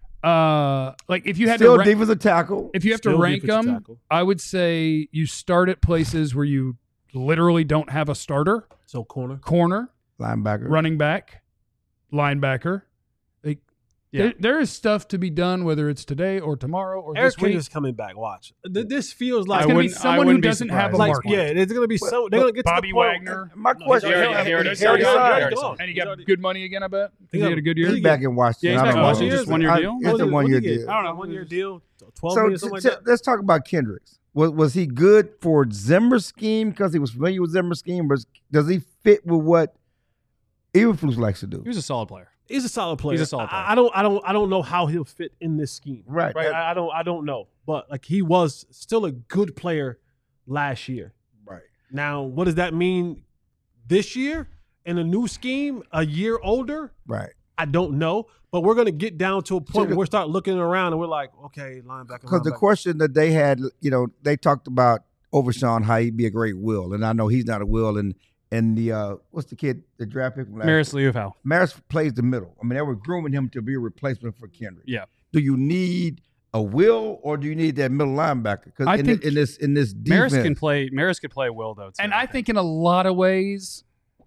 S1: Like if you had
S4: Still
S1: to
S4: defensive tackle.
S1: if you have to
S5: Still
S1: rank
S5: defensive
S1: them,
S5: tackle.
S1: I would say you start at places where you literally don't have a starter.
S5: So corner.
S4: Linebacker,
S1: Running back, linebacker. Like,
S2: Yeah.
S1: there is stuff to be done, whether it's today or tomorrow or
S5: Eric
S1: this week.
S5: Kendricks coming back. Watch. This feels like
S1: It's going to be someone who doesn't have a
S5: like,
S1: market.
S5: yeah, it's going to be so. They're going to get
S1: Bobby
S5: to the point.
S1: Wagner.
S4: My question:
S2: He already signed.
S1: And he got good money again, I bet. He had a good year.
S4: He's back in Washington.
S2: Yeah, he's
S4: I
S2: back
S4: don't
S2: in
S4: know.
S2: Washington. Just 1 year deal?
S4: It's a 1 year deal.
S2: I don't know.
S5: 1 year deal. 12
S4: So
S5: million, something like that.
S4: let's talk about Kendricks. Was he good for Zimmer's scheme because he was familiar with Zimmer's scheme, or does he fit with what Eberflus likes to do?
S2: He was a solid player.
S5: He's a solid player.
S2: He's a solid player.
S5: I don't know how he'll fit in this scheme.
S4: Right.
S5: I don't know. But like he was still a good player last year.
S4: Right.
S5: Now, what does that mean this year in a new scheme, a year older?
S4: Right.
S5: I don't know. But we're gonna get down to a point where we start looking around and we're like, okay, linebacker.
S4: Because the question that they had, they talked about Overshawn, how he'd be a great will, and I know he's not a will. And the what's the kid, the draft pick from last
S2: Maris Liufau.
S4: Maris plays the middle. I mean, they were grooming him to be a replacement for Kendrick.
S2: Yeah.
S4: Do you need a will or do you need that middle linebacker? Because
S1: I think
S4: in this defense,
S2: Maris could play will though. Too,
S1: And I think in a lot of ways,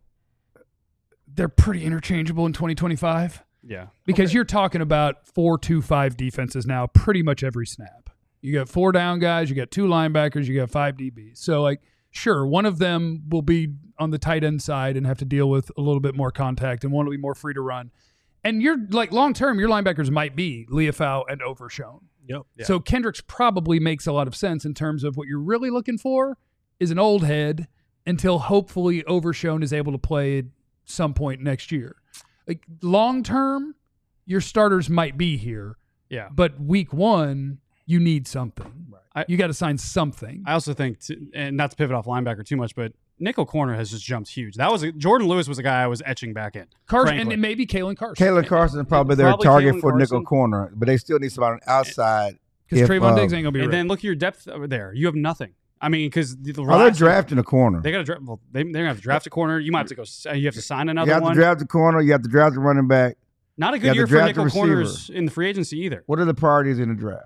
S1: they're pretty interchangeable in 2025.
S2: Yeah.
S1: Because you're talking about 4-2-5 defenses now pretty much every snap. You got 4 down guys, you got 2 linebackers, you got 5 DBs. So, like, sure, one of them will be on the tight end side and have to deal with a little bit more contact, and one will be more free to run. And you're like long term, your linebackers might be Liufau and Overshown.
S5: Yep.
S2: Yeah.
S1: So Kendricks probably makes a lot of sense in terms of what you're really looking for is an old head until hopefully Overshown is able to play at some point next year. Like long term, your starters might be here.
S2: Yeah.
S1: But week 1, you need something.
S2: Right.
S1: You got to sign something.
S2: I also think, and not to pivot off linebacker too much, but nickel corner has just jumped huge. Jordan Lewis was a guy I was etching back in.
S1: Carson,
S2: frankly.
S1: and maybe Kalen Carson.
S4: Kalen Carson is probably their
S2: Probably
S4: target
S2: Kalen
S4: for nickel
S2: Carson.
S4: corner, but they still need somebody on the outside.
S1: Because Trayvon Diggs ain't going to be
S2: And
S1: ready.
S2: then look at your depth over there. You have nothing. I mean, because the
S4: they're drafting a corner.
S2: They got to draft. Well, they're gonna have to draft a corner. You might have to go. You have to sign another
S4: You have
S2: one.
S4: to draft the corner. You have to draft the running back.
S2: Not a
S4: you
S2: good
S4: have to
S2: year for
S4: draft
S2: nickel
S4: a
S2: corners
S4: receiver.
S2: in the free agency either.
S4: What are the priorities in the draft?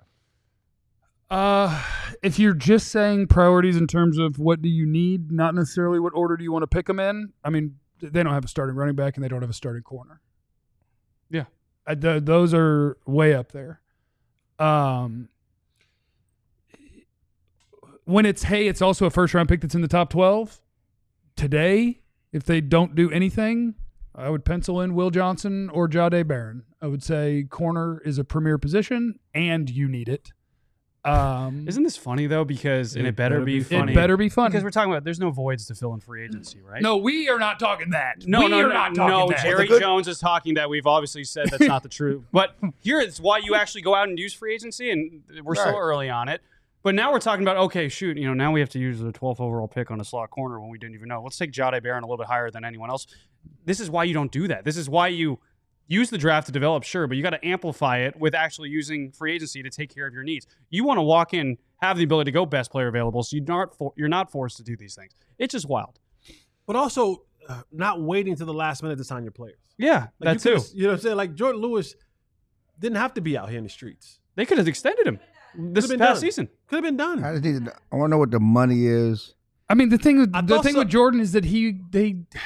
S1: If you're just saying priorities in terms of what do you need, not necessarily what order do you want to pick them in. I mean, they don't have a starting running back and they don't have a starting corner.
S2: Yeah.
S1: Those are way up there. When it's also a first round pick that's in the top 12 today, if they don't do anything, I would pencil in Will Johnson or Jahdae Barron. I would say corner is a premier position and you need it.
S2: Isn't this funny though? Because and it better be funny.
S1: It better be funny.
S2: Because we're talking about there's no voids to fill in free agency, right?
S1: No, we are not talking that.
S2: No,
S1: we
S2: no,
S1: are
S2: no,
S1: not talking
S2: no.
S1: that.
S2: Jerry Jones is talking that. We've obviously said that's not the truth. But here is why you actually go out and use free agency, and we're so
S4: Right.
S2: early on it. But now we're talking about, okay, shoot, now we have to use the 12th overall pick on a slot corner when we didn't even know. Let's take Jahdae Barron a little bit higher than anyone else. This is why you don't do that. This is why you use the draft to develop, sure, but you got to amplify it with actually using free agency to take care of your needs. You want to walk in, have the ability to go best player available, so you're not forced to do these things. It's just wild.
S5: But also not waiting to the last minute to sign your players.
S2: Yeah,
S5: Like
S2: that too.
S5: You know what I'm saying? Like Jordan Lewis didn't have to be out here in the streets.
S2: They could have extended him this
S5: Could've been
S2: past
S5: done.
S2: season.
S5: Could have been done.
S4: I just need I want to know what the money is.
S1: I mean, the thing
S5: I thought
S1: with Jordan is that he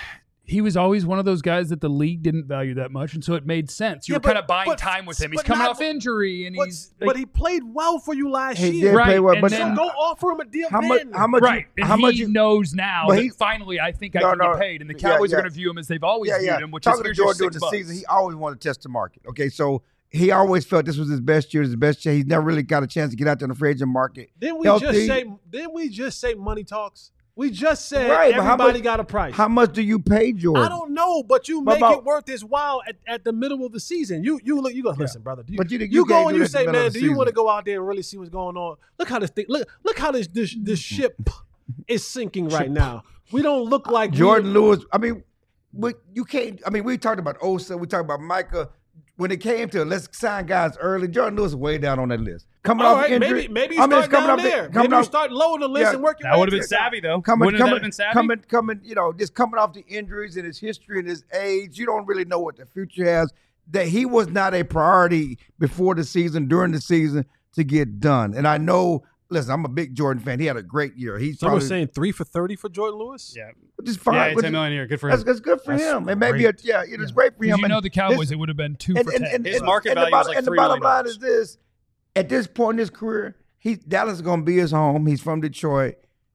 S1: he was always one of those guys that the league didn't value that much, and so it made sense. You were kind of buying time with him. He's coming off injury, and
S5: but he played well for you last
S4: He
S5: year.
S4: did play well,
S1: and
S4: but
S1: then-
S5: So go offer him a deal.
S4: how much?
S5: then.
S4: How much?
S1: Right,
S4: You,
S1: and
S4: how much?
S1: he
S4: You,
S1: knows now
S4: but
S1: that
S4: he-
S1: finally I think I
S4: No,
S1: can
S4: no.
S1: get paid, and the
S4: Yeah,
S1: Cowboys are
S4: yeah.
S1: going to view him as they've always viewed him, which
S4: Talking
S1: is
S4: to
S1: here's
S4: Jordan
S1: your
S4: during the
S1: $6.
S4: season, he always wanted to test the market. Okay, so he always felt this was his best year, his best year. He's never really got a chance to get out there in the free agent market.
S5: Didn't we
S4: Healthy.
S5: just say money talks? We just said
S4: Right, but how
S5: everybody
S4: much-
S5: got a price.
S4: How much do you pay Jordan?
S5: I don't know, but you
S4: But
S5: make
S4: about-
S5: it worth his while at the middle of the season. You look, you go, listen, brother.
S4: But you
S5: go
S4: can't
S5: and
S4: do
S5: you
S4: this in
S5: say,
S4: the middle
S5: man,
S4: of
S5: do
S4: the
S5: you want to
S4: season.
S5: go out there and really see what's going on? Look how this thing, look how this ship is sinking right now. We don't look like
S4: Jordan Lewis. I mean, you can't. I mean, we talked about Osa. We talked about Micah. When it came to let's sign guys early, Jordan Lewis is way down on that list. Coming
S5: All
S4: off
S5: right,
S4: injury,
S5: maybe you
S4: I mean,
S5: start
S4: it's coming
S5: down
S4: off
S5: there.
S4: coming
S5: Maybe you
S4: off-
S5: start lower the list
S4: Yeah.
S5: and work your
S2: That
S5: way
S2: would have
S5: to
S2: been
S5: the top.
S2: savvy, though.
S4: coming,
S2: Wouldn't that have been savvy?
S4: coming. You know, just coming off the injuries and his history and his age, you don't really know what the future has. That he was not a priority before the season, during the season to get done. And I know. Listen, I'm a big Jordan fan. He had a great year. He's
S5: Someone
S4: probably
S5: saying 3 for 30 for Jordan Lewis.
S2: Yeah.
S4: which is fine.
S2: Yeah,
S4: which
S2: 10
S4: is-
S2: million a year. Good for him.
S4: That's good for
S5: That's
S4: him. And maybe
S5: great.
S4: it is great for him.
S1: Because you
S4: And
S1: know the Cowboys,
S4: this-
S1: it would have been 2 for 10.
S2: His market value was like
S4: and the
S2: $3
S4: bottom
S2: million.
S4: line is this: at this point in his career, Dallas is going to be his home. He's from Detroit.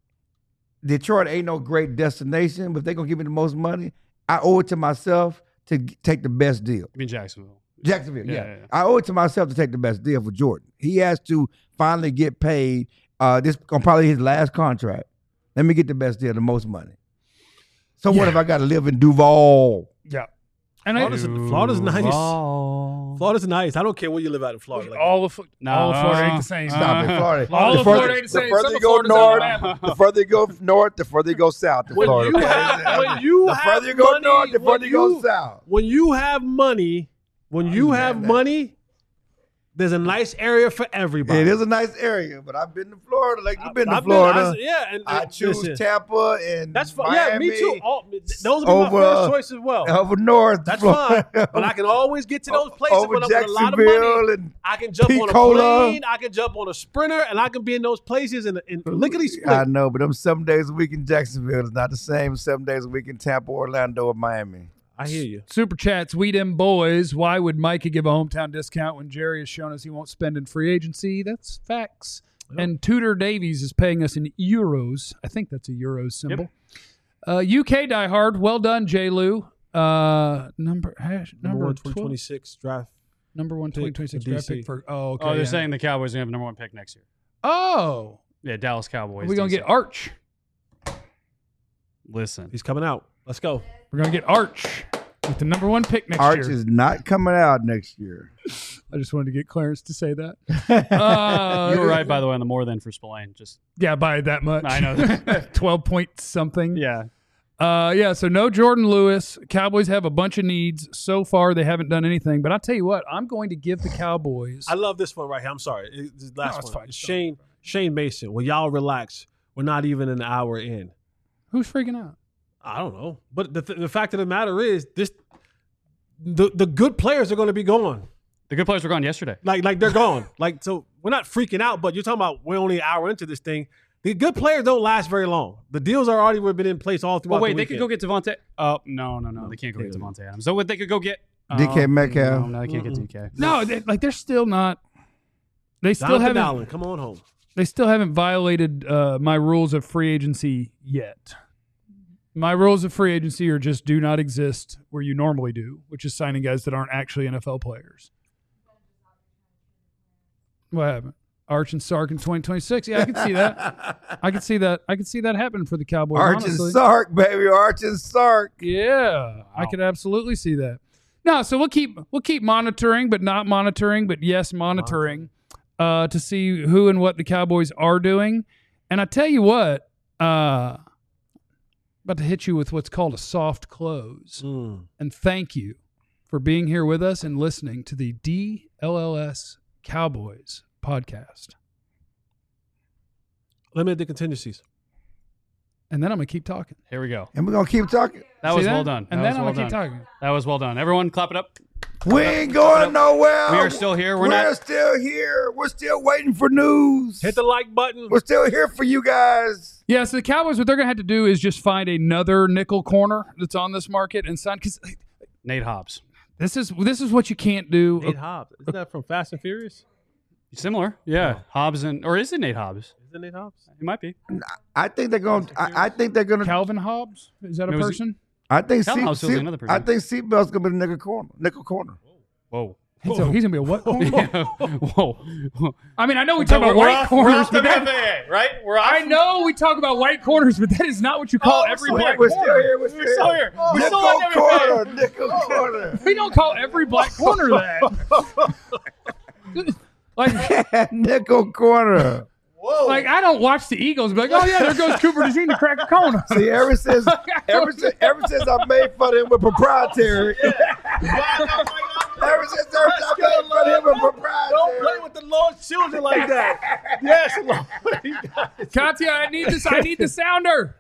S4: Detroit ain't no great destination, but if they're going to give me the most money, I owe it to myself to take the best deal.
S2: I mean, Jacksonville.
S4: Jacksonville, yeah.
S2: Yeah.
S4: I owe it to myself to take the best deal for Jordan. He has to finally get paid. This on probably his last contract. Let me get the best deal, the most money. So what if I got to live in Duval?
S1: Yeah. And
S5: Florida's nice. Florida's nice. I don't care where you live out in Florida. Like
S1: all of Florida ain't the same.
S4: Stop it, Florida.
S1: All
S4: The
S1: of
S4: further-
S1: Florida ain't the same.
S4: The further
S1: Some
S4: you
S1: of
S4: go
S1: Florida's
S4: north,
S1: Alabama.
S4: the further you go north, the further you go south. To
S5: when
S4: Florida.
S5: you have, when you
S4: the
S5: have
S4: further you go
S5: money,
S4: north, the
S5: when
S4: further you go south.
S5: When you have money, money, there's a nice area for everybody.
S4: It is a nice area, but I've been to Florida. Like you've been to
S5: I've
S4: Florida.
S5: and
S4: I choose
S5: listen,
S4: Tampa and
S5: That's fine.
S4: Miami.
S5: Yeah, me too. Those would be my
S4: over,
S5: first choice as well.
S4: Over north.
S5: That's
S4: Florida.
S5: fine. But I can always get to those places
S4: over
S5: when I'm with a lot of
S4: Jacksonville
S5: money.
S4: and
S5: I can jump on a
S4: Pensacola.
S5: plane. I can jump on a Sprinter, and I can be in those places and lickety split.
S4: I know, but them 7 days a week in Jacksonville is not the same as 7 days a week in Tampa, Orlando, or Miami.
S5: I hear you.
S1: Super chats, we them boys. Why would Micah give a hometown discount when Jerry has shown us he won't spend in free agency? That's facts.
S5: Yep.
S1: And Tudor Davies is paying us in euros. I think that's a euros symbol. UK diehard. Well done, J. Lou. Number
S5: 1,
S1: 12
S5: 2026 draft.
S1: Number 1,
S5: pick
S1: 2026
S5: for
S1: draft
S5: DC.
S1: pick for. Oh, okay.
S2: Oh, they're
S1: yeah.
S2: saying the Cowboys are going to have number 1 pick next year.
S1: Oh,
S2: Yeah, Dallas Cowboys.
S1: we're gonna
S2: DC.
S1: get Arch.
S2: Listen.
S5: He's coming out. Let's go.
S1: We're gonna get Arch with the number 1 pick next
S4: Arch
S1: year.
S4: is not coming out next year.
S1: I just wanted to get Clarence to say that.
S2: You were right, by the way, on the more than for Spillane. Just
S1: Yeah, by that much.
S2: I know.
S1: 12 point something.
S2: yeah.
S1: So no Jordan Lewis. Cowboys have a bunch of needs. So far, they haven't done anything. But I'll tell you what, I'm going to give the Cowboys.
S5: I love this one right here. I'm sorry. This last
S1: it's
S5: one.
S1: fine.
S5: It's Shane Mason. Well, y'all relax. We're not even an hour in.
S1: Who's freaking out?
S5: I don't know. But the fact of the matter is, the good players are going to be gone.
S2: The good players were gone yesterday.
S5: Like they're gone. So we're not freaking out, but you're talking about we're only an hour into this thing. The good players don't last very long. The deals are already been in place all throughout
S2: Well, wait,
S5: the
S2: they could go get Devontae. Oh, no. They can't go get Devontae Adams. So what they could go get?
S4: DK Metcalf.
S2: No, they can't get DK.
S1: No, they're still not. They still
S5: Jonathan
S1: haven't.
S5: Allen, come on home.
S1: They still haven't violated my rules of free agency yet. My rules of free agency are just do not exist where you normally do, which is signing guys that aren't actually NFL players. What happened? Arch and Sark in 2026. Yeah, I can see that. I can see that. I can see that happen for the Cowboys.
S4: Arch and
S1: honestly.
S4: Sark, baby. Arch and Sark.
S1: Yeah, I could absolutely see that. No, so we'll keep monitoring, but not monitoring, but yes, monitoring to see who and what the Cowboys are doing. And I tell you what, about to hit you with what's called a soft close. And thank you for being here with us and listening to the DLLS Cowboys podcast.
S5: Limited contingencies.
S1: And then I'm going to keep talking.
S2: Here we go.
S4: And we're going to keep talking.
S2: That
S1: See
S2: was well done.
S1: And
S2: That
S1: then
S2: was
S1: I'm
S2: well
S1: going to keep
S2: done.
S1: talking.
S2: That was well done. Everyone clap it up.
S4: We ain't going nowhere.
S2: We are still here. We're
S4: still here. We're still waiting for news.
S5: Hit the like button.
S4: We're still here for you guys.
S1: Yeah, so the Cowboys, what they're going to have to do is just find another nickel corner that's on this market and sign. Because
S2: Nate Hobbs.
S1: this is what you can't do.
S5: Nate Hobbs. Isn't that from Fast and Furious?
S2: Similar. Yeah. Hobbs or is it Nate Hobbs?
S5: Is it Nate Hobbs?
S2: It might be.
S4: I think they're going. I think they're going to.
S1: Calvin Hobbs? Is that a person?
S4: I think
S2: Calvin Hobbs is another person.
S4: I think Seatbelt's going to be the nickel corner.
S2: Whoa.
S1: He's going to be a what corner?
S2: Yeah. Whoa.
S1: I mean, I know we talk about white corners, but that,
S2: right?
S1: I know we talk about white corners, but that is not what you call every black
S4: We're
S1: corner.
S4: still here. We're still here. Nickel corner.
S1: We don't call every black corner that. Like,
S4: Nickel corner.
S5: Whoa.
S1: like I don't watch the Eagles and be like, oh yeah, there goes Cooper DeJean to crack a corner.
S4: See, ever since I made fun of him with proprietary. Ever since I made fun of him with proprietary.
S5: Don't play with the Lord's children like that. Yes, Lord.
S1: Katya, I need the sounder.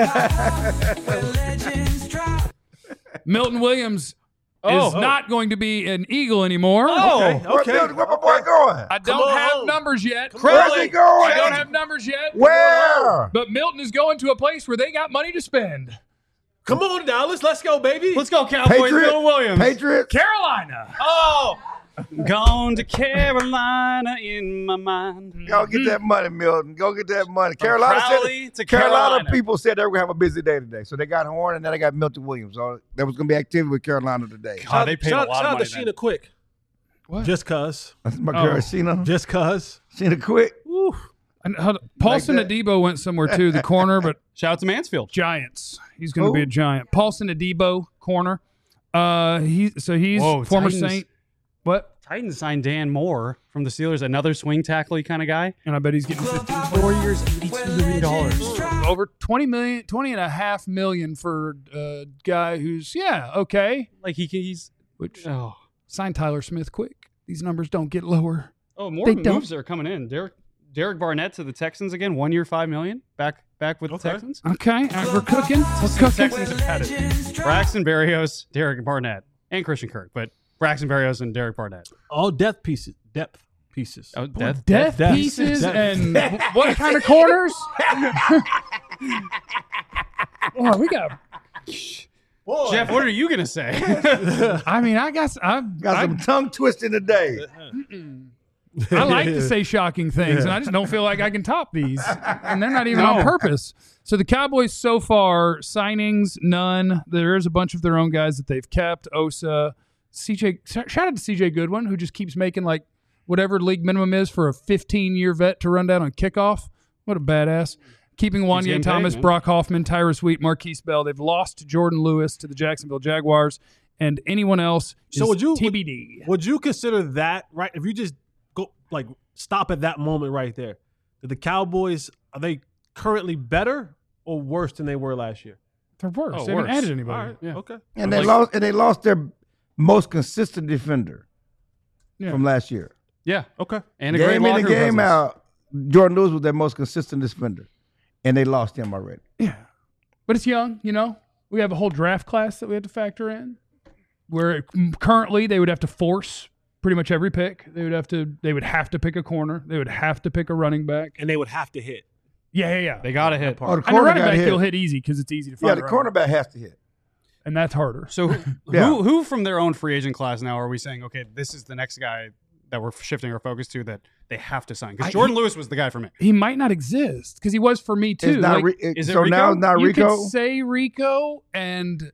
S1: Milton Williams is not going to be an Eagle anymore.
S5: Okay.
S4: Where my boy going?
S1: I don't have numbers yet.
S4: Where's he going?
S1: I don't have numbers yet.
S4: Where?
S1: But Milton is going to a place where they got money to spend.
S5: Come on, Dallas. Let's go, baby.
S2: Let's go, Cowboys. Bill Williams.
S4: Patriots.
S1: Carolina.
S2: Oh. Gone to Carolina in my mind.
S4: Go get that money, Milton. Go get that money. Carolina people said they were going to have a busy day today. So they got Horn and then they got Milton Williams. So there was going to be activity with Carolina today.
S2: God, they paid a lot of money.
S5: Shout out to Sheena Quick.
S1: What?
S5: Just cuz.
S4: That's my girl, Sheena.
S5: Just cuz.
S4: Sheena Quick.
S5: Woo.
S1: And Paulson Adebo went somewhere too, the corner, but
S2: Shout out to Mansfield.
S1: Giants. He's going to be a Giant. Paulson Adebo, corner. He's former
S2: Titans.
S1: Saint. What?
S2: Titans signed Dan Moore from the Steelers, another swing tackle kind of guy.
S1: And I bet he's getting
S2: 4 years, $82 million.
S1: over $20.5 million for a guy who's okay.
S2: Like he's
S1: Sign Tyler Smith quick. These numbers don't get lower.
S2: Oh, more moves are coming in. Derek Barnett to the Texans again, 1 year, $5 million. Back with the Texans.
S1: Okay, we're cooking. We're cooking.
S2: Texans have had it. Braxton Berrios, Derek Barnett, and Christian Kirk, but Braxton Berrios and Derek Barnett.
S5: All depth pieces.
S2: Oh,
S1: Death pieces and what kind of corners? Oh, we got.
S5: Boy.
S2: Jeff, what are you gonna say?
S1: I mean, I guess I've
S4: Got some tongue twisting today.
S1: I like to say shocking things, and I just don't feel like I can top these. And they're not even on purpose. So the Cowboys so far, signings, none. There is a bunch of their own guys that they've kept. Osa, CJ, shout out to CJ Goodwin, who just keeps making like whatever league minimum is for a 15-year vet to run down on kickoff. What a badass. Keeping Wanye Thomas, Brock Hoffman, Tyrus Wheat, Marquise Bell. They've lost Jordan Lewis to the Jacksonville Jaguars, and anyone else is TBD.
S5: Would you consider that, right, if you just go like stop at that moment right there, that the Cowboys, are they currently better or worse than they were last year?
S1: They're worse.
S2: Oh,
S1: they haven't
S2: worse.
S1: added anybody.
S5: All right.
S1: Yeah.
S5: Okay.
S4: And they lost their most consistent defender from last year.
S2: Yeah.
S5: Okay.
S2: And a great
S4: Game in
S2: locker
S4: and game
S2: presence.
S4: out, Jordan Lewis was their most consistent defender. And they lost him already.
S1: Yeah. But it's young, We have a whole draft class that we have to factor in. Where currently they would have to force pretty much every pick. They would have to pick a corner. They would have to pick a running back.
S5: And they would have to hit.
S1: Yeah.
S2: They got to hit.
S4: Oh, the
S1: And the running
S4: got
S1: back
S4: hit.
S1: you'll hit easy because it's easy to find.
S4: Yeah, the cornerback has to hit.
S1: And that's harder.
S2: So who from their own free agent class now are we saying, okay, this is the next guy that we're shifting our focus to that they have to sign? Because Jordan Lewis was the guy for me.
S1: He might not exist because he was for me too.
S4: It's not
S2: is it
S4: so
S2: Rico?
S4: now it's not
S1: you
S4: Rico?
S1: could say Rico, and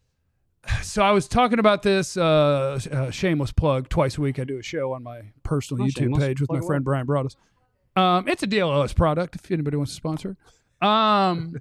S1: so I was talking about this shameless plug. Twice a week I do a show on my personal YouTube
S2: shameless.
S1: page with my
S2: Plug
S1: friend Brian Broaddus. It's a DLOS product if anybody wants to sponsor it.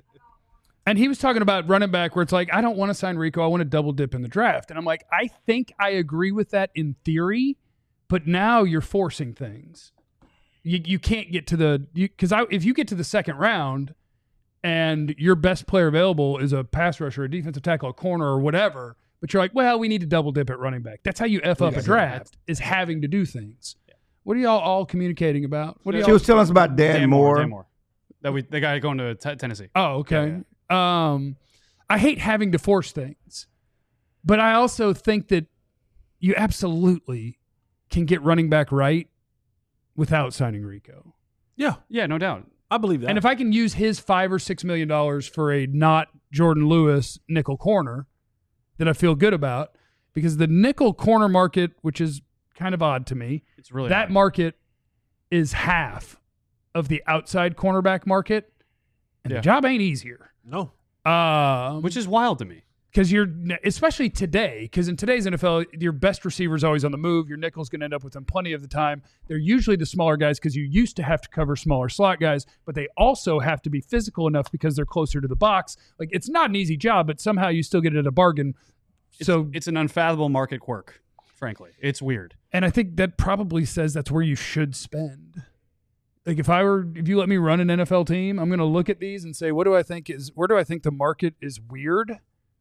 S1: And he was talking about running back where it's like, I don't want to sign Rico. I want to double dip in the draft. And I'm like, I think I agree with that in theory, but now you're forcing things. You can't get to because if you get to the second round and your best player available is a pass rusher, a defensive tackle, a corner, or whatever, but you're like, well, we need to double dip at running back. That's how you F up a draft, is having to do things. What are y'all all communicating about?
S4: She was telling us about Dan Moore.
S2: Dan Moore. The guy going to Tennessee.
S1: Oh, okay. I hate having to force things, but I also think that you absolutely can get running back right without signing Rico.
S5: Yeah,
S2: no doubt.
S5: I believe that.
S1: And if I can use his $5 or $6 million for a not Jordan Lewis nickel corner, that I feel good about, because the nickel corner market, which is kind of odd to me,
S2: It's really
S1: that
S2: odd.
S1: market is half of the outside cornerback market, and
S2: Yeah.
S1: the job ain't easier.
S5: no.
S2: which is wild to me.
S1: Because you're, especially today, because in today's NFL, your best receiver is always on the move. Your nickel's going to end up with them plenty of the time. They're usually the smaller guys because you used to have to cover smaller slot guys, but they also have to be physical enough because they're closer to the box. Like, it's not an easy job, but somehow you still get it at a bargain.
S2: It's an unfathomable market quirk, frankly. It's weird.
S1: And I think that probably says that's where you should spend. Like, if you let me run an NFL team, I'm going to look at these and say, where do I think the market is weird?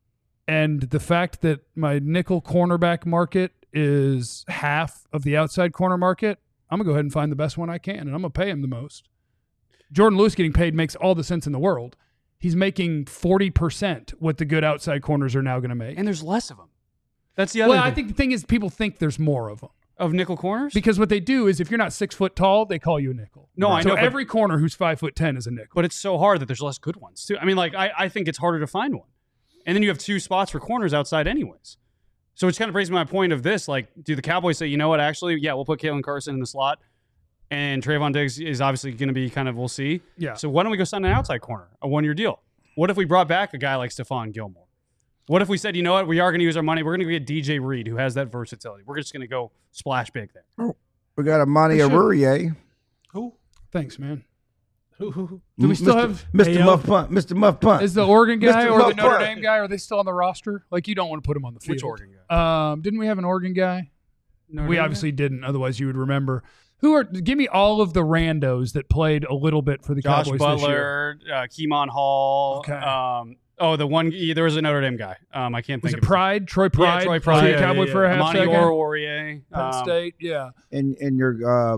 S1: And the fact that my nickel cornerback market is half of the outside corner market, I'm going to go ahead and find the best one I can, and I'm going to pay him the most. Jordan Lewis getting paid makes all the sense in the world. He's making 40% what the good outside corners are now going to make.
S2: And there's less of them. That's the other
S1: Well,
S2: thing.
S1: I think the thing is people think there's more of them.
S2: Of nickel corners?
S1: Because what they do is if you're not 6 foot tall, they call you a nickel.
S2: No, I
S1: so
S2: know, but-
S1: every corner who's 5'10" is a nickel.
S2: But it's so hard that there's less good ones, too. I mean, like, I think it's harder to find one. And then you have 2 spots for corners outside anyways. So it kind of brings me my point of this. Like, do the Cowboys say, you know what, actually, yeah, we'll put Kalen Carson in the slot, and Trayvon Diggs is obviously going to be kind of, we'll see.
S1: Yeah.
S2: So why don't we go sign an outside corner, a 1-year deal? What if we brought back a guy like Stephon Gilmore? What if we said, you know what, we are going to use our money. We're going to get DJ Reed, who has that versatility. We're just going to go splash big there.
S4: We got Amani
S1: They should.
S4: Arurier.
S5: Who?
S1: Thanks, man.
S5: Who?
S1: Do we still have
S4: Mr.
S5: Ayo?
S4: Muff Punt? Mr. Muff Punt.
S1: is the Oregon guy
S4: Mr.
S1: or the
S4: Muff
S1: Notre
S4: Punt.
S1: Dame guy? Are they still on the roster? Like, you don't want to put him on the field.
S2: Which Oregon guy?
S1: Didn't we have an Oregon guy?
S2: Notre
S1: We
S2: Dame
S1: obviously didn't. Otherwise, you would remember. Give me all of the randos that played a little bit for the
S2: Josh
S1: Cowboys this year.
S2: Butler, Keemon Hall.
S1: Okay.
S2: The one there was a Notre Dame guy. I can't
S1: Was
S2: think
S1: it
S2: of
S1: Pride? Troy Pride?
S2: Troy Pride.
S1: Was he a
S2: Yeah,
S1: Cowboy for a half
S2: Amani
S1: second?
S2: Oruwariye.
S1: Penn State, yeah.
S4: and your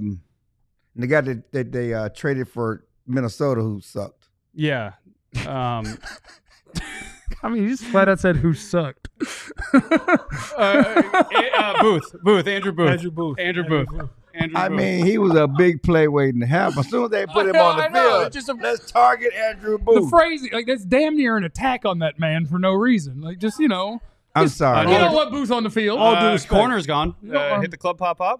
S4: the guy that they traded for Minnesota who sucked.
S2: Yeah.
S1: I mean, you just flat out said who sucked.
S2: Booth. Andrew Booth.
S5: Andrew Booth.
S2: Andrew Booth. Andrew
S4: I
S2: Booth.
S4: mean, he was a big play waiting to happen. As soon as they put him on the
S1: I know,
S4: field,
S1: it's just
S4: let's target Andrew
S1: the
S4: Booth.
S1: phrasing, like, that's damn near an attack on that man for no reason. Like, just,
S4: I'm sorry.
S1: you don't want Booth on the field.
S5: All due respect.
S2: Corner's gone. Hit the club pop.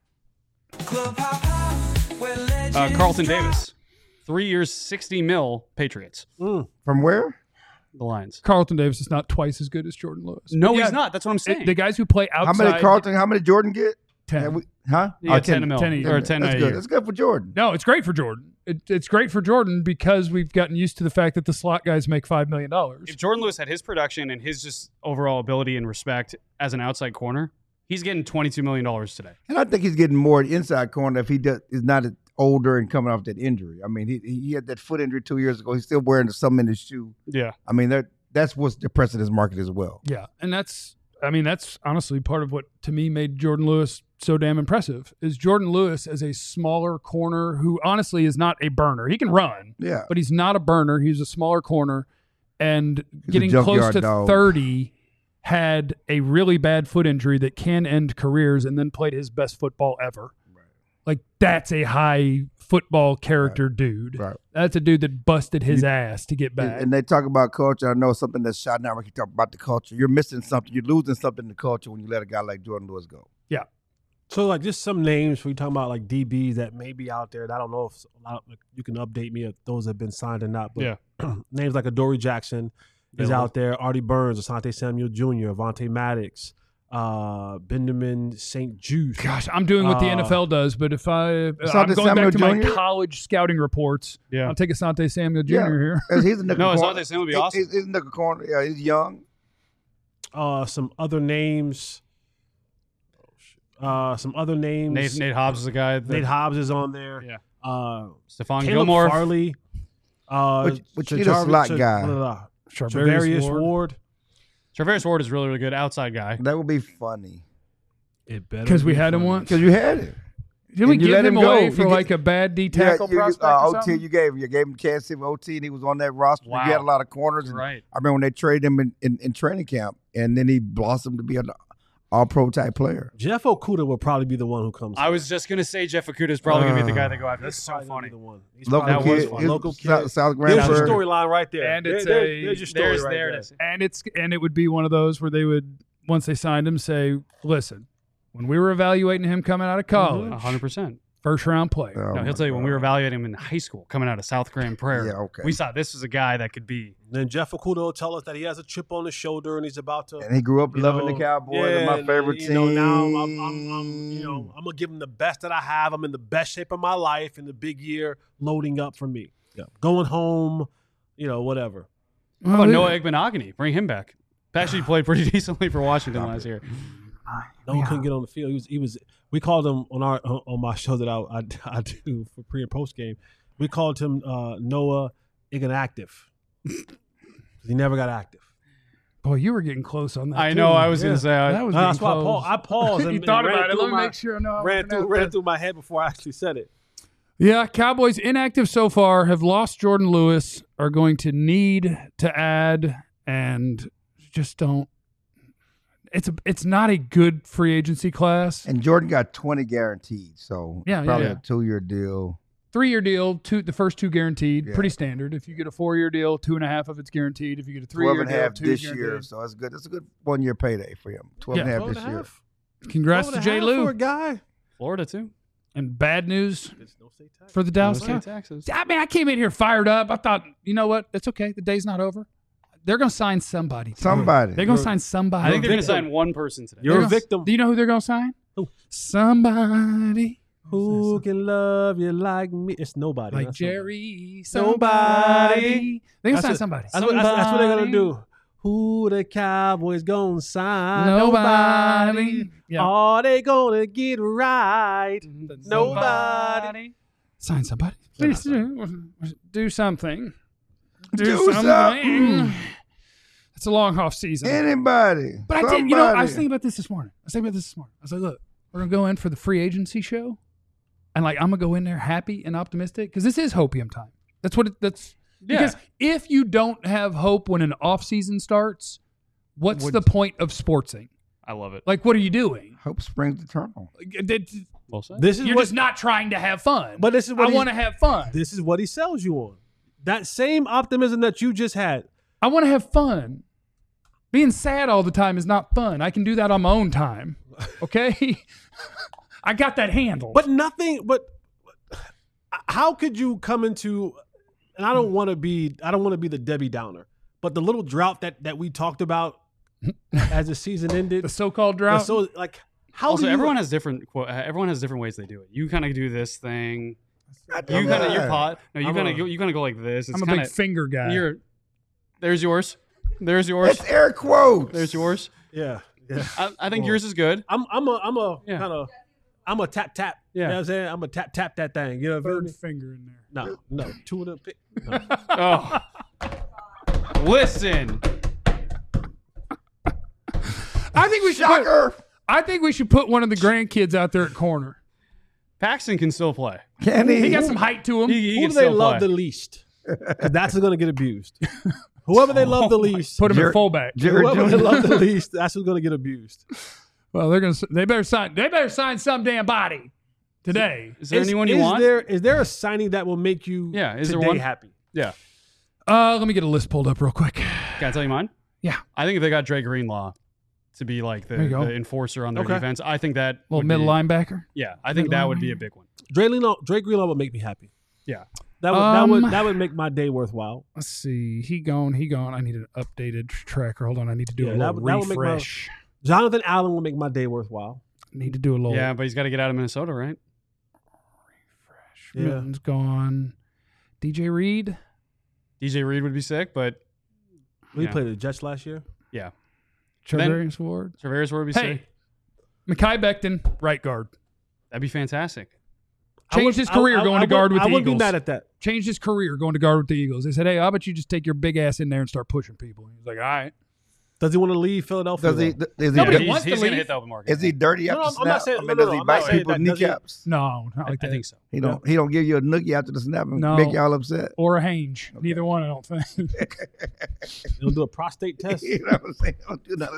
S2: Carlton Davis. 3 years, $60 million, Patriots.
S4: From where?
S2: The Lions.
S1: Carlton Davis is not twice as good as Jordan Lewis.
S2: No,
S1: But yeah,
S2: he's not. That's what I'm saying.
S1: The guys who play outside.
S4: How many Jordan get?
S1: 10.
S4: Have we- huh?
S2: Yeah,
S4: Oh,
S2: 10 mil.
S1: 10 a year.
S2: Or 10
S4: That's
S2: a
S4: good.
S2: year.
S4: That's good for Jordan.
S1: No, it's great for Jordan. It's great for Jordan because we've gotten used to the fact that the slot guys make $5 million.
S2: If Jordan Lewis had his production and his just overall ability and respect as an outside corner, he's getting $22 million today.
S4: And I think he's getting more inside corner if he is not older and coming off that injury. I mean, he had that foot injury 2 years ago. He's still wearing something in his shoe.
S2: Yeah.
S4: I mean, that's what's depressing his market as well.
S1: Yeah, and that's honestly part of what, to me, made Jordan Lewis so damn impressive, is Jordan Lewis as a smaller corner who honestly is not a burner. He can run,
S4: Yeah.
S1: but he's not a burner. He's a smaller corner, and
S4: He's a
S1: getting close
S4: junkyard
S1: to
S4: dog.
S1: 30, had a really bad foot injury that can end careers, and then played his best football ever. Like, that's a high football character dude.
S4: Right.
S1: That's a dude that busted his ass to get back.
S4: And they talk about culture. I know something that's shot now. We talk about the culture. You're missing something. You're losing something in the culture when you let a guy like Jordan Lewis go.
S1: Yeah.
S5: So, like, just some names we talking about, like DBs that may be out there. And I don't know if you can update me if those have been signed or not. But names like Adoree Jackson is out there. Artie Burns, Asante Samuel Jr., Avonte Maddox, Benjamin St. Juice.
S1: Gosh, I'm doing what the NFL does, but if I'm
S4: Asante
S1: going back to
S4: Samuel
S1: my
S4: Jr.?
S1: college scouting reports,
S2: Yeah.
S1: I'll take Asante Samuel Jr.
S4: Yeah.
S1: here.
S4: He's a nickel
S2: No,
S4: corner.
S2: Asante Samuel would be awesome.
S4: He's a nickel corner. Yeah, he's young.
S5: Some other names.
S2: Nate Hobbs is the guy.
S5: Nate Hobbs is on there.
S2: Yeah.
S5: Caleb
S2: Stephon Gilmore.
S5: Farley.
S4: Which need a slot guy.
S5: Charvarius Ward.
S2: Travaris Ward is really, really good outside guy.
S4: That would be funny.
S5: It better
S1: Because we
S5: be
S1: had him
S5: funny.
S1: once.
S4: Because you had it.
S1: Did we
S4: and you
S1: give
S4: let
S1: him
S4: him go.
S1: away
S4: You
S1: for
S4: get-
S1: like a bad D tackle prospect or
S4: OT
S1: something?
S4: you gave him Kansas City OT, and he was on that roster.
S2: Wow.
S4: You had a lot of corners. And
S2: Right.
S4: I remember when they traded him in training camp, and then he blossomed to be an all-pro type player.
S5: Jeff Okudah will probably be the one who comes.
S2: I was just gonna say Jeff Okudah is probably gonna be the guy that go after. That's so funny.
S4: Local kid, South Grand
S5: There's your
S4: Prairie.
S5: storyline right there.
S1: And it's
S5: there's your story right
S2: there
S5: there.
S2: it is.
S1: And it would be one of those where they would, once they signed him, say, listen, when we were evaluating him coming out of college,
S2: 100%.
S1: first round player.
S4: Oh,
S2: No, he'll tell you when we were evaluating him in high school, coming out of South Grand Prairie.
S4: Yeah, okay.
S2: We saw this was a guy that could be.
S5: Then Jeff Okudah will tell us that he has a chip on his shoulder and he's about to.
S4: And he grew up
S5: you
S4: loving
S5: know,
S4: the Cowboys.
S5: yeah,
S4: and my favorite
S5: you
S4: team.
S5: know, now I'm gonna give him the best that I have. I'm in the best shape of my life in the big year loading up for me. Yeah. Going home, whatever.
S2: How about Noah Igbenogany? Bring him back. Actually played pretty decently for Washington last year.
S5: No one couldn't get on the field. He was. We called him on my show that I do for pre and post game. We called him Noah Inactive. He never got active.
S1: Boy, you were getting close on that.
S2: I
S1: too.
S2: know. I was going to say.
S1: That was
S5: That's
S1: getting
S5: why
S1: close.
S5: I paused.
S1: You
S5: And
S1: thought
S5: ran
S1: about it.
S5: through
S1: Let me
S5: my-
S1: make sure I know. how I'm
S5: Ran
S1: pronouncing
S5: through my head before I actually said it.
S1: Yeah, Cowboys inactive so far, have lost Jordan Lewis, are going to need to add, and just don't. It's not a good free agency class.
S4: And Jordan got 20 guaranteed, so
S1: Yeah,
S4: probably
S1: yeah.
S4: a 2-year deal.
S1: 3-year deal, the first 2 guaranteed,
S4: Yeah.
S1: pretty standard. If you get a 4-year deal, 2.5 of it's guaranteed. If you get a
S4: 12
S1: 3-year
S4: and a
S1: deal,
S4: half
S1: 2
S4: this
S1: is
S4: year,
S1: guaranteed.
S4: so that's good. That's a good 1-year payday for him. 12 and a half
S5: 12
S4: this
S5: and a
S4: year.
S5: half.
S1: Congrats to
S5: 12
S1: Jay
S5: and a half for
S1: Lou.
S5: a guy.
S2: Florida, too.
S1: And bad news
S5: No state tax.
S1: for the Dallas
S2: No
S1: Cowboys.
S2: state taxes.
S1: I mean, I came in here fired up. I thought, you know what? It's okay. The day's not over. They're going to sign somebody. today.
S4: Somebody.
S1: They're going to sign somebody.
S2: I think they're going to
S5: victim.
S2: sign one person today.
S5: You're
S1: They're
S5: a
S1: gonna-
S5: victim.
S1: Do you know who they're going to sign?
S5: Who?
S1: Somebody
S5: Who can love you like me? It's nobody.
S1: like
S5: That's
S1: Jerry.
S5: Somebody.
S1: They're going to
S5: That's
S1: sign
S5: it.
S1: somebody.
S5: That's what they're gonna do. Who the Cowboys gonna sign?
S1: Nobody. Yeah.
S5: Are they gonna get right? Nobody.
S1: Sign somebody. Please do something.
S4: Do something.
S1: It's a long off season.
S4: Anybody.
S1: But I did,
S4: Somebody.
S1: I was thinking about this this morning. I was like, look, we're going to go in for the free agency show. And I'm going to go in there happy and optimistic because this is hopium time. That's what that's.
S2: Yeah.
S1: Because if you don't have hope when an off season starts, what's the point of sportsing?
S2: I love it.
S1: What are you doing?
S4: Hope springs eternal.
S2: Well said.
S5: This is
S1: You're
S5: what.
S1: just not trying to have fun.
S5: But this is what
S1: I
S5: he-
S1: want to have fun.
S5: This is what he sells you on. That same optimism that you just had.
S1: I want to have fun. Being sad all the time is not fun. I can do that on my own time. Okay? I got that handled.
S5: But nothing. But how could you come into? And I don't want to be the Debbie Downer. But the little drought that we talked about as the season ended.
S1: the so-called drought.
S5: So how
S2: Also,
S5: do you,
S2: everyone has different ways they do it. You kind of do this thing.
S4: Not
S2: You
S4: that
S2: kind of your
S4: bad.
S2: pot. No, you
S5: I'm
S2: kind
S5: a-
S2: of you kind of go like this. It's
S1: I'm a
S2: kind
S1: big
S2: of
S1: finger guy.
S2: There's yours. There's yours.
S4: It's air quotes.
S2: There's yours.
S5: Yeah.
S2: I think yours is good.
S5: I'm a
S2: Yeah.
S5: kind of I'm a tap.
S2: Yeah.
S5: You know what I'm saying? I'm a tap that thing. You know what I
S1: Third
S5: mean?
S1: finger in there.
S5: No. 2 of them. No.
S2: Oh, listen.
S1: I think we should
S4: Shocker.
S1: I think we should put one of the grandkids out there at corner.
S2: Paxton can still play.
S4: Can he?
S1: He got some height to him.
S2: He
S5: Who
S2: can
S5: do they
S2: still
S5: love
S2: play.
S5: the least? 'Cause that's going to get abused. Whoever they love the least.
S1: Put him
S4: Jer-
S1: at fullback.
S4: Jared
S5: Whoever they
S4: Jones.
S5: love the least, that's who's going to get abused.
S1: Well, they better sign some damn body today.
S2: Is there anyone you want?
S5: Is there a signing that will make you
S2: Yeah, is there
S5: today
S2: one?
S5: happy?
S2: Yeah.
S1: Let me get a list pulled up real quick.
S2: Can I tell you mine?
S1: Yeah.
S2: I think if they got Dre Greenlaw to be like
S1: There you go.
S2: the enforcer on their
S5: Okay.
S2: defense, I think that
S1: Little
S2: would
S1: middle
S2: be,
S1: linebacker.
S2: Yeah, I think that would be a big one.
S5: Drake Greenlaw would make me happy.
S2: Yeah.
S5: That would make my day worthwhile.
S1: Let's see. He gone. I need an updated tracker. Hold on. I need to do
S5: Yeah,
S1: a
S5: that
S1: little
S5: would make my-
S1: refresh.
S5: Jonathan Allen will make my day worthwhile.
S1: Need to do a little
S2: Yeah, but he's got to get out of Minnesota, right?
S1: refresh.
S5: Yeah.
S1: Milton's gone. DJ Reed.
S2: DJ Reed would be sick, but
S5: We
S2: Yeah.
S5: played the Jets last year.
S2: yeah.
S1: Charvarius Ward.
S2: Traveris would be
S1: Hey,
S2: sick.
S1: Mekhi Becton, right guard.
S2: That'd be fantastic.
S1: Changed his career going to guard with the
S5: I wouldn't be
S1: Eagles.
S5: mad at that.
S1: Changed his career going to guard with the Eagles. They said, hey, how about you just take your big ass in there and start pushing people? He's like, all right.
S5: Does he want to leave Philadelphia?
S4: Does he?
S5: though?
S4: Is he?
S1: Nobody
S4: dirty-
S1: wants to
S2: he's gonna
S1: leave.
S2: hit the open market.
S4: Is he dirty
S5: No,
S4: after
S5: I'm not
S4: snap?
S5: saying-
S4: I mean,
S5: no,
S4: does
S5: no,
S4: he
S5: I'm
S4: bite
S5: not saying
S4: people's
S5: that. Does he-
S4: kneecaps?
S1: No, not like
S2: I
S1: that.
S2: think so.
S4: He don't give you a noogie after the snap and
S1: No.
S4: make y'all upset.
S1: Or a Hange. Neither one, I don't think.
S5: He'll do a prostate test.
S4: You know what I'm saying? Don't do none of that.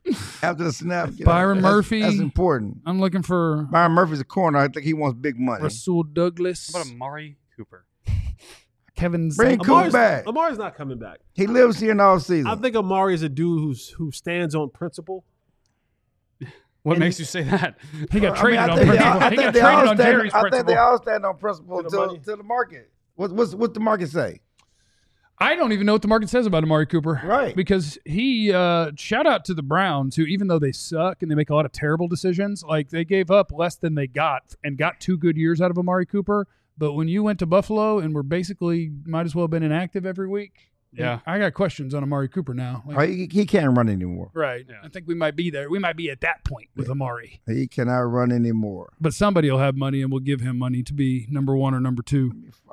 S4: After the snap.
S1: Byron Murphy.
S4: That's important.
S1: I'm looking for
S4: Byron Murphy's a corner. I think he wants big money.
S1: Rasul Douglas.
S2: How about Amari Cooper?
S1: Kevin
S4: Bring Coop back.
S5: Amari's not coming back.
S4: He lives here in all season.
S5: I think Amari is a dude who stands on principle.
S2: What makes you say that?
S1: He got traded on
S4: think
S1: principle.
S4: I
S1: He
S4: think
S1: got
S4: they
S1: traded
S4: all
S1: on
S4: stand-
S1: Jerry's
S4: I think they
S1: principle.
S4: all stand on principle
S5: To the money.
S4: to the market. What's the market say?
S1: I don't even know what the market says about Amari Cooper.
S4: Right.
S1: Because he, shout out to the Browns, who even though they suck and they make a lot of terrible decisions, like they gave up less than they got and got 2 good years out of Amari Cooper. But when you went to Buffalo and were basically might as well have been inactive every week,
S2: Yeah.
S1: I got questions on Amari Cooper now. Like,
S4: He can't run anymore.
S1: right.
S2: Yeah.
S1: I think we might be there. We might be at that point with Amari.
S4: He cannot run anymore.
S1: But somebody will have money and will give him money to be number 1 or number 2.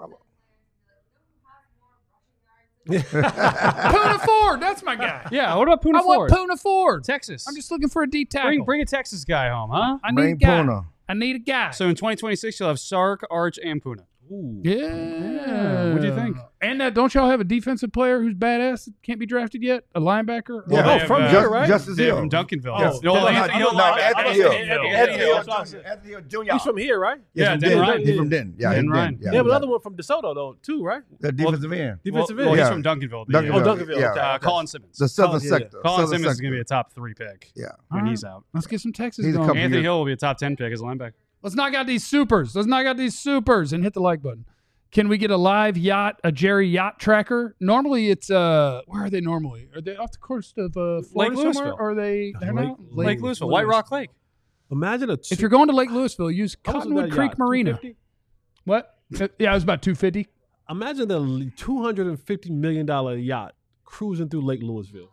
S1: Puna Ford, that's my guy.
S2: Yeah, what about Puna
S1: I want
S2: Ford?
S1: Puna Ford.
S2: Texas.
S1: I'm just looking for a D tackle.
S2: bring a Texas guy home, huh?
S1: I need
S4: Bring
S1: a guy.
S4: Puna.
S1: I need a guy.
S2: So in 2026, you'll have Sark, Arch, and Puna.
S5: Ooh.
S1: Yeah.
S2: What do you think?
S1: And that, don't y'all have a defensive player who's badass that can't be drafted yet? A linebacker?
S4: Yeah.
S2: they
S5: Oh,
S2: have,
S5: from
S2: uh,
S5: here, right?
S4: Justice
S2: Yeah,
S4: Hill.
S2: from Duncanville.
S5: Oh,
S2: No,
S5: no,
S2: Anthony Hill.
S4: Anthony Hill.
S5: Anthony Hill.
S4: Anthony Hill Jr.
S5: He's from here, right?
S2: Yeah,
S4: from
S2: Dan
S4: Denton.
S2: Ryan.
S4: He's from Denton. Yeah,
S2: Dan
S4: he's from
S2: Ryan.
S4: Denton.
S5: They have another one from DeSoto, though, too, right?
S4: The defensive end.
S5: Defensive
S2: Well,
S5: end.
S2: he's
S4: Yeah.
S2: from Duncanville.
S4: Duncanville.
S5: Duncanville,
S4: Yeah.
S5: okay.
S2: Colin Simmons.
S4: The southern
S5: Colin, yeah, yeah.
S4: sector.
S2: Colin
S4: Southern
S2: Simmons is going to be
S4: sector.
S2: a top 3 pick
S4: Yeah.
S2: when he's out.
S1: Let's get some Texas
S4: He's a
S1: going.
S4: couple-
S2: Anthony
S4: years.
S2: Hill will be a top 10 pick as a linebacker.
S1: Let's knock out these supers. Let's knock out these supers and hit the like button. Can we get a live yacht, a Jerry yacht tracker? Normally it's where are they normally? Are they off the coast of Florida somewhere?
S2: Louisville.
S1: Or are they they're
S5: Lake-
S1: not?
S2: Lake Louisville. White Rock Lake.
S5: Imagine a
S1: If you're going to Lake Louisville, use
S5: how much was
S1: Cottonwood
S5: that
S1: Creek
S5: yacht?
S1: Marina.
S5: 250?
S1: What? Yeah, it was about 250.
S5: Imagine the $250 million yacht cruising through Lake Louisville.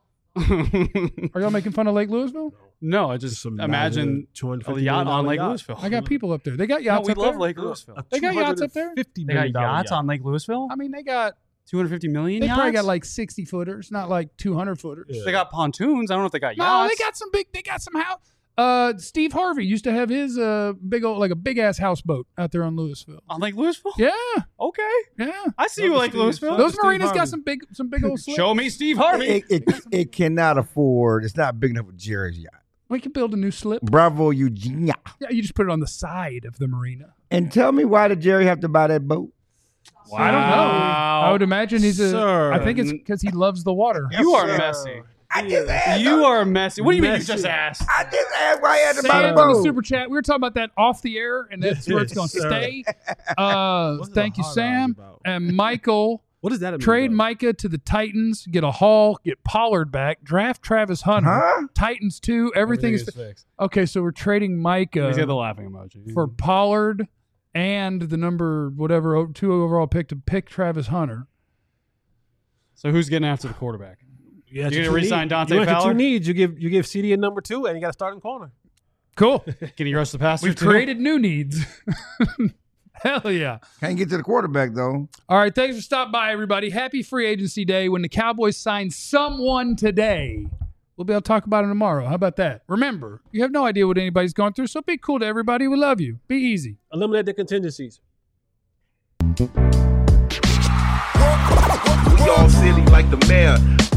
S1: Are y'all making fun of Lake Louisville?
S2: No, I just imagine a
S5: $250
S2: yacht on Lake
S5: yacht.
S2: Louisville.
S1: I got people up there. They got
S2: No,
S1: yachts
S2: we
S1: up
S2: love
S1: there.
S2: Lake Louisville.
S1: They got yachts up there?
S5: $50
S2: They
S5: million
S2: got yachts
S5: yacht.
S2: on Lake Louisville?
S1: I mean, they got
S2: 250 million
S1: they
S2: yachts?
S1: probably got like 60 footers, not like 200 footers.
S5: Yeah.
S2: They got pontoons. I don't know if they got yachts.
S1: No, they got some big. They got some house. Steve Harvey used to have his big old like a big ass houseboat out there on Louisville.
S2: On Lake Louisville?
S1: Yeah,
S2: Okay.
S1: yeah.
S2: I see you, Lake Louisville.
S1: Those
S5: Steve
S1: marinas got
S5: Harvey.
S1: some big old slips.
S2: Show me Steve Harvey.
S4: It cannot afford. It's not big enough for Jerry's yacht.
S1: We can build a new slip.
S4: Bravo, Eugenia.
S1: Yeah, you just put it on the side of the marina.
S4: And tell me, why did Jerry have to buy that boat?
S1: I don't know. I would imagine he's a.
S5: Sir.
S1: I think it's because he loves the water.
S2: You are
S5: sir.
S2: messy.
S4: I just asked.
S2: You are messy. What do you mean you
S5: Messy.
S2: just asked?
S4: I just asked why he had to buy
S1: Sam
S4: the
S1: in the
S4: boat.
S1: super chat. We were talking about that off the air, and that's where it's going to
S5: Sir.
S1: stay.
S5: What's the
S1: Thank you,
S5: hard
S1: Sam
S5: eyes about?
S1: and Michael.
S5: What does that mean?
S1: Trade
S5: though?
S1: Micah to the Titans, get a haul, get Pollard back, draft Travis Hunter,
S4: Huh?
S1: Titans 2. Everything is
S2: fixed.
S1: okay. So we're trading
S2: He's got the
S1: Micah
S2: laughing emoji.
S1: for Pollard and the number whatever 2 overall pick to pick Travis Hunter.
S2: So who's getting after the quarterback?
S5: You got
S2: You
S5: your
S2: gonna
S5: two
S2: re-sign
S5: needs.
S2: Dante
S5: You got your
S2: Fowler?
S5: two needs. You give CD a number 2, and you got a starting corner.
S1: Cool.
S2: Can you rush the passer?
S1: We've
S2: too?
S1: created new needs. Hell yeah.
S4: Can't get to the quarterback though.
S1: All right, thanks for stopping by, everybody. Happy free agency day. When the Cowboys sign someone today, we'll be able to talk about it tomorrow. How about that? Remember, you have no idea what anybody's going through, so be cool to everybody. We love you. Be easy.
S5: Eliminate the contingencies.
S6: We all silly like the mayor.